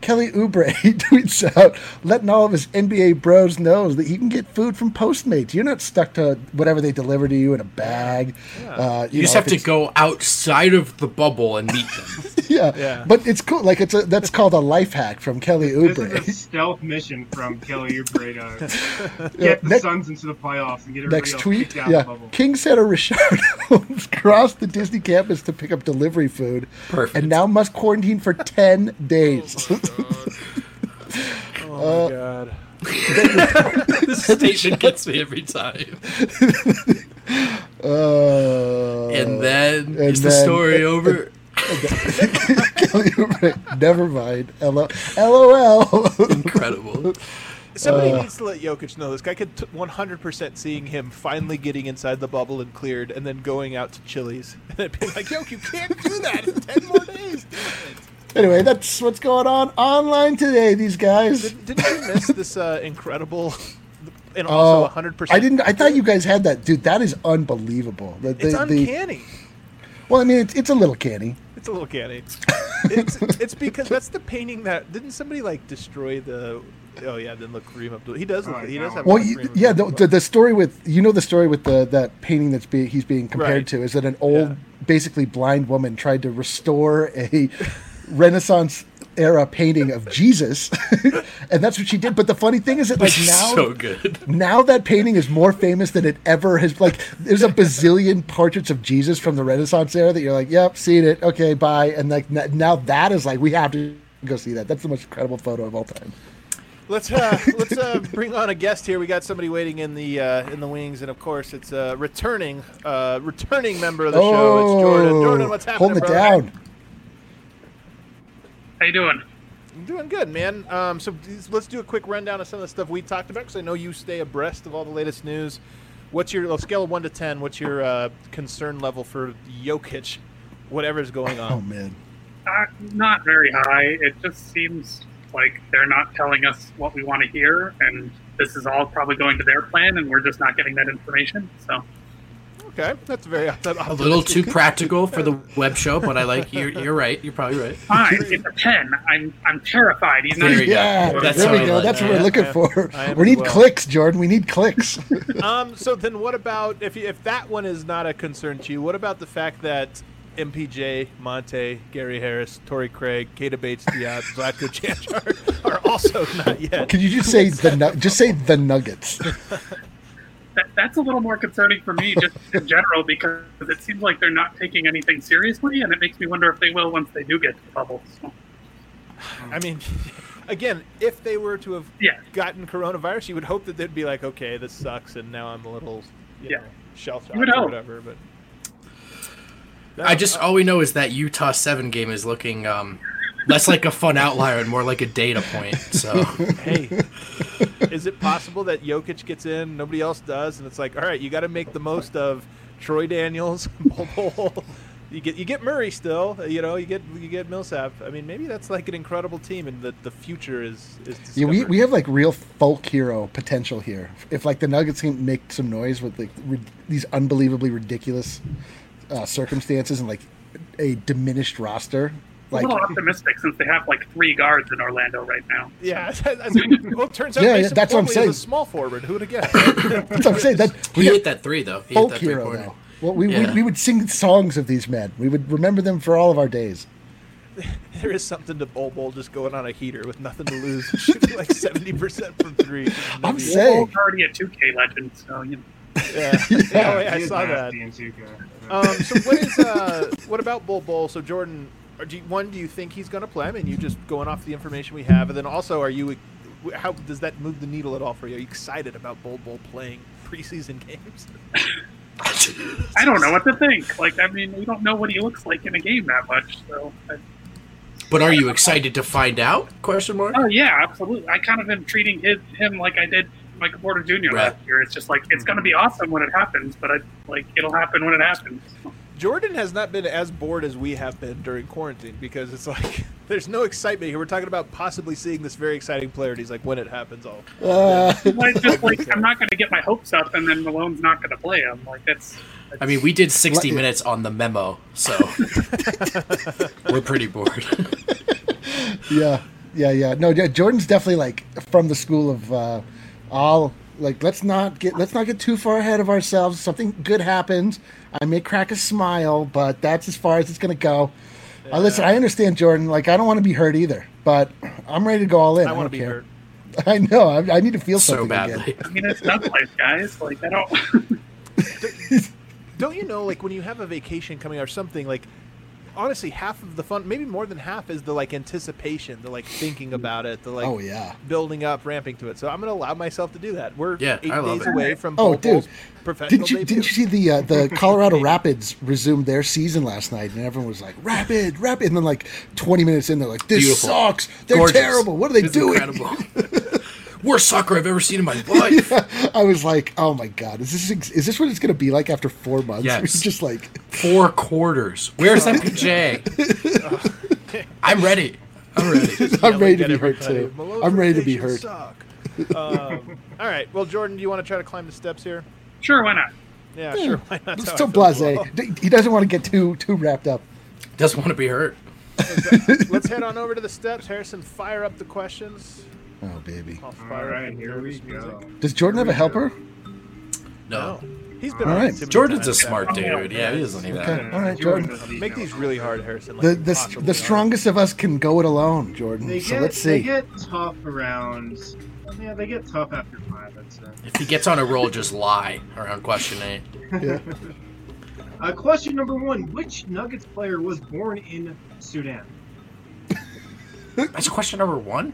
Kelly Oubre tweets out, letting all of his N B A bros know that you can get food from Postmates. You're not stuck to whatever they deliver to you in a bag. Yeah. Uh, you, you just know, have to go outside of the bubble and meet them. yeah. Yeah. But it's cool. Like it's a that's called a life hack from Kelly Oubre. This is a stealth mission from Kelly Oubre to Yeah, get the next- Suns into the playoffs and get everybody Next else tweet, kicked out yeah. of the bubble. King Senator Richard Holmes crossed the Disney campus to pick up delivery food. Perfect. And now must quarantine for ten days. Oh my god. This statement gets me every time. Uh, And then and is the then- story over? Kelly Oubre, never mind. L O L. Incredible. Somebody Uh, needs to let Jokic know this. Guy could t- one hundred percent seeing him finally getting inside the bubble and cleared, and then going out to Chili's and then being like, "Yoke, you can't do that. It's ten more days." Damn it. Anyway, that's what's going on online today. These guys. Did, didn't you miss this uh, incredible and also Oh, one hundred percent? I didn't. I thought you guys had that, dude. That is unbelievable. The, It's the, the- uncanny. well, I mean, it's, it's a little canny. It's a little canny. It's it's because that's the painting that didn't somebody like destroy the. Oh yeah, then look Kareem Abdul. He does. Look, Oh, he no. does have. Well, a you, Kareem yeah, the, Abdul-Jabbar. the the story with you know the story with the that painting that's being he's being compared Right. to is that an old, Yeah. basically blind woman tried to restore a Renaissance era painting of Jesus, and that's what she did. But the funny thing is that like now, so good. now that painting is more famous than it ever has. Like, there's a bazillion portraits of Jesus from the Renaissance era that you're like, yep, seen it, okay, bye. And like n- now that is like we have to go see that. That's the most incredible photo of all time. Let's uh, let's uh, bring on a guest here. We got somebody waiting in the uh, in the wings, and of course, it's a returning uh, returning member of the show. It's Jordan. Jordan, what's happening, Holding it brother? down. How you doing? I'm doing good, man. Um, so let's do a quick rundown of some of the stuff we talked about, because I know you stay abreast of all the latest news. What's your on a scale of one to ten? What's your uh, concern level for Jokic, whatever's going on? Oh man. Uh, not very high. It just seems like they're not telling us what we want to hear, and this is all probably going to their plan, and we're just not getting that information. So, Okay, that's very A little too practical for the web show, but I like you're you're right. You're probably right. fine. It's a ten. I'm I'm terrified. He's not. There you go. Yeah, That's there what we I go. like. That's what I we're am- looking I am- for. I am We as need well. clicks, Jordan. We need clicks. Um. So then, what about if you, if that one is not a concern to you? What about the fact that M P J, Monte, Gary Harris, Torrey Craig, Keita Bates-Diop, Zlatko Jančar are also not yet? Could you just say the nu- just say the Nuggets? That, that's a little more concerning for me, just in general, because it seems like they're not taking anything seriously, and it makes me wonder if they will once they do get to the bubble. So, I mean, again, if they were to have Yeah. gotten coronavirus, you would hope that they'd be like, okay, this sucks, and now I'm a little, you Yeah. know, shell shocked You would or hope. whatever. But I just all we know is that Utah seven game is looking um, less like a fun outlier and more like a data point. So hey, is it possible that Jokic gets in, nobody else does, and it's like, all right, you got to make the most of Troy Daniels, Bol Bol. You get you get Murray still, you know, you get you get Millsap. I mean, maybe that's like an incredible team, and the the future is is discovered. Yeah, we, we have like real folk hero potential here. If like the Nuggets can make some noise with like re- these unbelievably ridiculous uh, circumstances and like a diminished roster, a like little optimistic since they have like three guards in Orlando right now. Yeah, well, it turns out Yeah, yeah, Mason that's what I'm Plumlee saying. is a small forward. Who'd have guessed? that's what I'm saying. That he we hit that three though. He hit folk that hero three-pointer. though. Well, we, Yeah. we we would sing songs of these men. We would remember them for all of our days. There is something to Bol Bol just going on a heater with nothing to lose, shooting like seventy percent from three. I'm Maybe- saying- Bol's already a two K legend, so you know. Yeah. Oh, yeah, I He is saw that. nasty in two K. Um, so what is uh, what about Bol Bol? So Jordan, are- do you, one, do you think he's going to play? I mean, you just going off the information we have, and then also, are you? How does that move the needle at all for you? Are you excited about Bol Bol playing preseason games? I don't know what to think. Like, I mean, we don't know what he looks like in a game that much. So, I, But are you excited to find out? Question mark. oh yeah, absolutely. I kind of am treating his, him like I did Michael Porter Junior Right. last year. It's just like it's going to be awesome when it happens, but I, like it'll happen when it happens. Jordan has not been as bored as we have been during quarantine because it's like there's no excitement here. We're talking about possibly seeing this very exciting player, and he's like, when it happens, I'll. Uh, Like, just like I'm not going to get my hopes up, and then Malone's not going to play him. Like that's. I mean, we did sixty Let- minutes on the memo, so we're pretty bored. yeah. Yeah, yeah. No, yeah, Jordan's definitely like from the school of uh, all like let's not get let's not get too far ahead of ourselves. Something good happens. I may crack a smile, but that's as far as it's gonna go. Yeah. Uh, listen, I understand, Jordan. Like I don't want to be hurt either, but I'm ready to go all in. I, I want to be care. hurt. I know. I, I need to feel so something badly. again. I mean, it's not life, guys. Like I don't. Don't you know, like when you have a vacation coming or something, like honestly, half of the fun, maybe more than half, is the like anticipation, the like thinking about it, the like oh yeah, building up, ramping to it. So I'm going to allow myself to do that. We're yeah, eight I love days it. away from oh Bol dude, Bol's professional didn't you debut. didn't you see the uh, the Colorado Rapids resumed their season last night, and everyone was like Rapid, Rapid, and then like twenty minutes in, they're like, this Beautiful. sucks, they're Gorgeous. terrible, what are they It's doing? Incredible. Worst soccer I've ever seen in my life. Yeah, I was like, oh my god, is this is this what it's going to be like after four months? Yes. It's just like four quarters. Where's M P J? I'm ready. I'm ready. I'm ready to Get be hurt everybody. too. Malone's I'm ready to be rotations hurt. suck. um, all right. Well, Jordan, do you want to try to climb the steps here? Sure, why not? Yeah, Yeah. sure. Why not? It's That's still how I feel as blasé. well. He doesn't want to get too too wrapped up. Doesn't want to be hurt. Let's head on over to the steps. Harrison, fire up the questions. Oh baby. I'll All fire right, up the here we nervous music. go. Does Jordan have a helper? No. He's been All on right. it too many Jordan's a times. smart dude. Yeah, he doesn't need Okay. that. All right, Jordan. doesn't Make know. these really hard, Harrison. Like The the, impossibly the hard. strongest of us can go it alone, Jordan. They So get, let's they see. get tough around. Yeah, they get tough after five. I'd say. If he gets on a roll, just lie around question eight. Yeah. Uh, question number one: which Nuggets player was born in Sudan? That's question number one.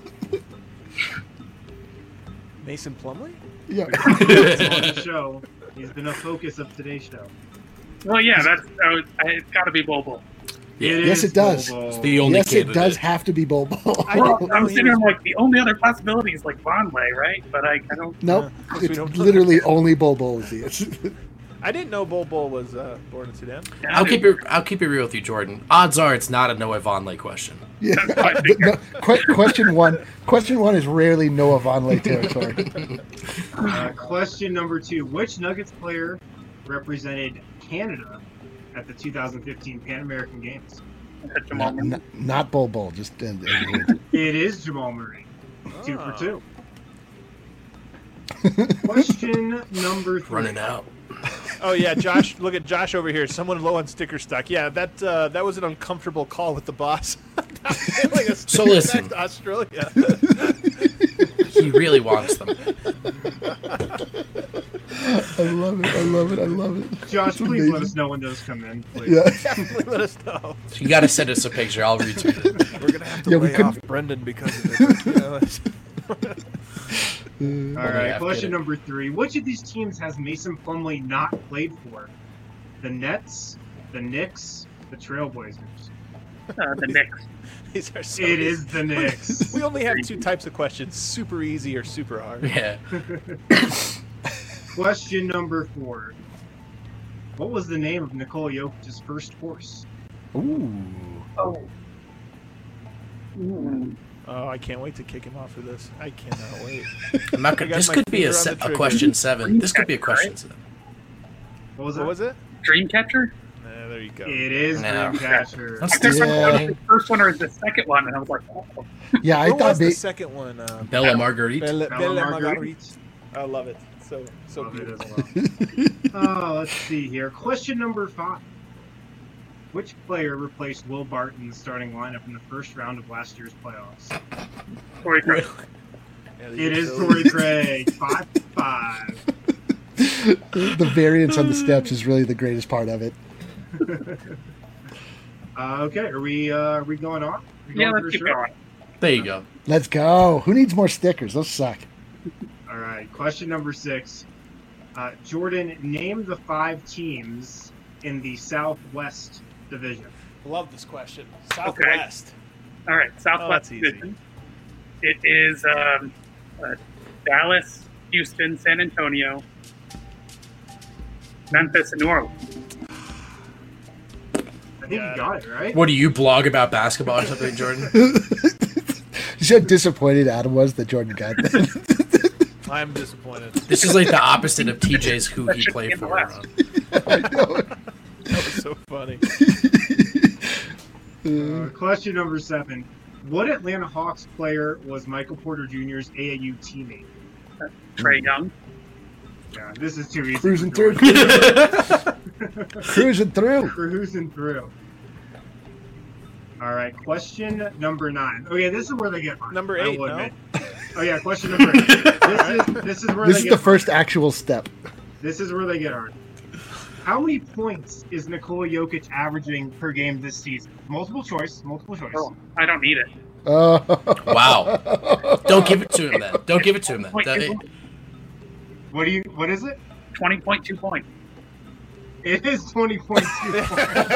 Mason Plumlee? Yeah. He's on the show. He's been a focus of today's show. Well, yeah, that's uh, it's got to be Bol Bol. It Yes, is it does. Bol Bol. It's the only Yes, it candidate. does have to be Bol Bol. I Well, didn't I'm know he sitting was- like the only other possibility is like Vonleh, right? But I, I don't. Nope. Yeah, 'cause we It's don't know. literally only Bol Bol is the I didn't know Bol Bol was uh, born in Sudan. Yeah, I'll keep it. I'll keep it real with you, Jordan. Odds are it's not a Noah Vonleh question. Yeah. No, que- question one. Question one is rarely Noah Vonleh territory. Uh, question number two: which Nuggets player represented Canada at the two thousand fifteen Pan American Games? Jamal not, Murray. not, not Bol Bol. Just uh, uh, It is Jamal Murray. Two Ah. for two. Question number three. Running out. Oh yeah, Josh. Look at Josh over here. Someone low on sticker stock. Yeah, that uh, that was an uncomfortable call with the boss. Like a So sticker listen. back to Australia. He really wants them. I love it. I love it. I love it. Josh, please Amazing. let us know when those come in. Please. Yeah. Definitely let us know. You got to send us a picture. I'll retweet it. We're gonna have to Yeah, we lay couldn't- off Brendan because of it. You know, it's- All right, Yeah, question get it. number three. Which of these teams has Mason Plumlee not played for? The Nets, the Knicks, the Trailblazers. Uh, the Knicks. These are so It easy. is the Knicks. We only have two types of questions: super easy or super hard. Yeah. Question number four. What was the name of Nikola Jokic's first horse? Ooh. Oh. Mm. Oh, I can't wait to kick him off for this. I cannot wait. I'm not I gonna, got this my could be finger a, on se- the a trigger. question seven. This could be a question seven. What was What that? was it? Dreamcatcher? Uh, there you go. It is No. Dreamcatcher. That's I couldn't Yeah. remember whether the first one or the second one, and I was like, oh. Yeah, I what thought was the they. second one? Uh, Bella Marguerite. Bella, Bella Bella Marguerite. Marguerite. I love it. So so Love it beautiful. as well. Oh, let's see here. Question number five. Which player replaced Will Barton in the starting lineup in the first round of last year's playoffs? Corey Craig. Yeah, these It are is so Torrey easy. Craig. Five five. The variance on the steps is really the greatest part of it. Uh, okay, are we uh, are we going on? We Yeah, going let's for keep sure? going. There you go. Let's go. Who needs more stickers? Those suck. All right. Question number six. Uh, Jordan, name the five teams in the Southwest Division. Love this question. Southwest. All right, Southwest that's easy. Division. It is um, uh, Dallas, Houston, San Antonio, Memphis, and New Orleans. I think Got you got it right. What do you blog about basketball or something, Jordan? You see how disappointed Adam was that Jordan got that. I'm disappointed. This is like the opposite of T J's who he played for. West. I know. That was so funny. Uh, question number seven. What Atlanta Hawks player was Michael Porter Junior's A A U teammate? Trae Young. Yeah, this is too easy. Cruising for through. Jordan. Cruising through. Cruising through. All right, question number nine. Oh yeah, this is where they get hard. Number I eight, will no? admit. Oh yeah, question number eight. This is this is where This they is get the hard. first actual step. This is where they get hard. How many points is Nikola Jokic averaging per game this season? Multiple choice. Multiple choice. Oh, I don't need it. Uh, Wow. Don't give it to him then. Don't give it to him then. Wait, That- you- What do you? What is it? twenty point two points. It is twenty point two points.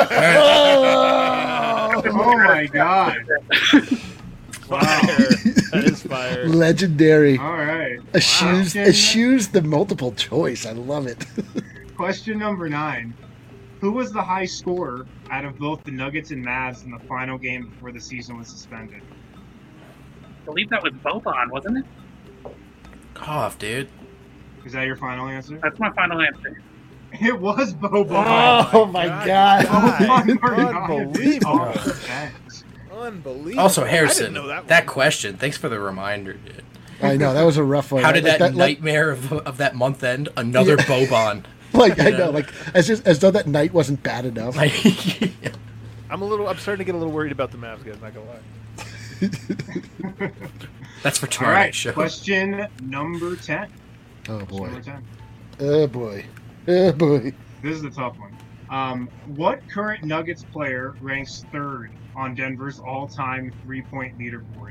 oh, Oh my god! Wow. That is fire. legendary. All right. Eschews, Question- eschews the multiple choice. I love it. Question number nine. Who was the high scorer out of both the Nuggets and Mavs in the final game before the season was suspended? I believe that was Boban, wasn't it? Cough, dude. Is that your final answer? That's my final answer. It was Boban. Oh my god. Boban Marjanovic. Unbelievable. Off the bench. Unbelievable. Also, I Harrison, didn't know that, that one. question. Thanks for the reminder, dude. I know that was a rough one. How did Like, that, nightmare of, of that month end? Another Boban. Like I Yeah. know, like as just, as though that night wasn't bad enough. Like, I'm a little. I'm starting to get a little worried about the Mavs, guys. Not gonna lie. that's for All tomorrow right. night's show. Question number ten. Oh Question boy. number ten. Oh boy. Oh boy. This is the tough one. Um, what current Nuggets player ranks third on Denver's all-time three-point leaderboard?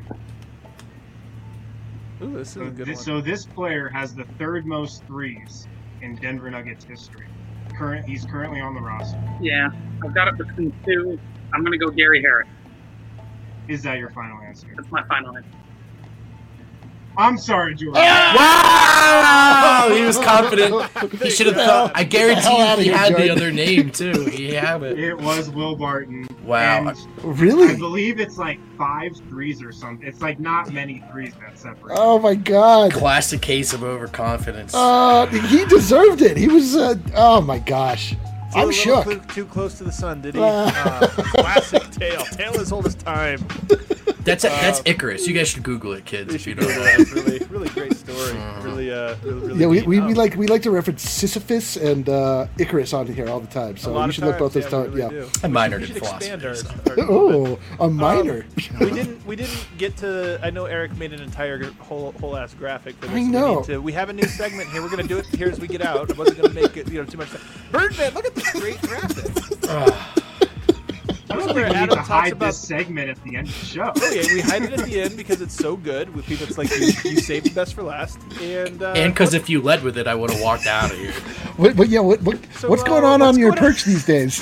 Ooh, this is So a good this, one. so this player has the third most threes in Denver Nuggets history. Current, he's currently on the roster. Yeah, I've got it between two. I'm going to go Gary Harris. Is that your final answer? That's my final answer. I'm sorry, George. Wow! He was confident. He should have thought. I guarantee hell you outta he here, had the Jordan. other name, too. He had it. It was Will Barton. Wow. And I Really? believe it's like five threes or something. It's like not many threes that separate. Oh my god. Classic case of overconfidence. Uh, he deserved it. He was. Uh, oh my gosh. A I'm little shook. cl- too close to the sun, did he? Uh. Uh, classic tale. Tale as old as time. That's that's Icarus. You guys should Google it, kids. You If you should don't do know. that. It's really, really great story. Really, uh, really, really Yeah, we, neat. we, we Um, like we like to reference Sisyphus and uh, Icarus on here all the time. a So lot you of should look both times, those yeah, we times. really Yeah. do. I minored We in should expand philosophy. our, so. our Oh, a minor. we didn't we didn't get to. I know Eric made an entire gr- whole whole ass graphic for this. I know. We, need to, we have a new segment here. We're gonna do it here as we get out. I wasn't gonna make it you know too much. Time. Birdman, look at this great graphic. I don't where think we need Adam to talks hide about- this segment at the end of the show. Oh yeah, we hide it at the end because it's so good. With people, it's like you, you saved the best for last. And uh, And because if you led with it, I would have walked out of here. What, what, yeah, what, what, So, what's uh, going on what's on your going on? perch these days?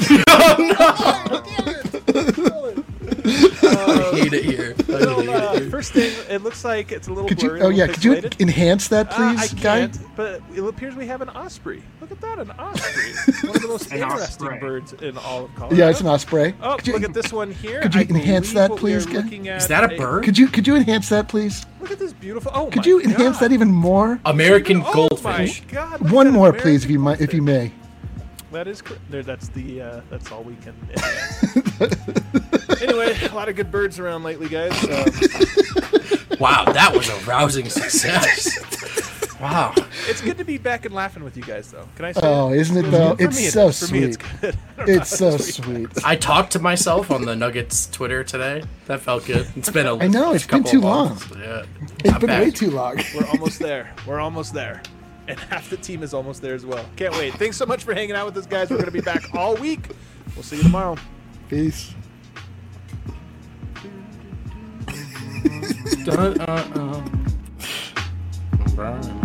I hate it here. I So, hate uh, it here. first thing, it looks like it's a little Could you? blurry. Oh a yeah, little could you pixelated. enhance that, Uh, please, I guy? can't, but it appears we have an osprey. Look at that, an osprey. One of the most An interesting osprey. birds in all of Colorado. Yeah, it's an osprey. Oh, Could you, look at this one here. could you I enhance believe that, what we are please, Ken? looking at Is that a bird? Could you? Could you enhance that, please? Look at this beautiful. Oh Could my you enhance God. that even more? American Oh goldfish. my God, look at One that more, please, if you American might, if you may. That is correct. There, that's the. Uh, that's all we can. enhance. Anyway, a lot of good birds around lately, guys. Um, Wow, that was a rousing success. Wow. it's good to be back and laughing with you guys, though. Can I say? Oh, it? isn't it For though? me, It's it so is. For me, it's sweet. good. I don't know It's how so this week- sweet. I talked to myself on the Nuggets Twitter today. That felt good. It's been a I know, it's been couple too of long. months. Yeah. It's I'm been way back. too long. We're almost there. We're almost there. And half the team is almost there as well. Can't wait. Thanks so much for hanging out with us, guys. We're going to be back all week. We'll see you tomorrow. Peace. Dun, uh, uh.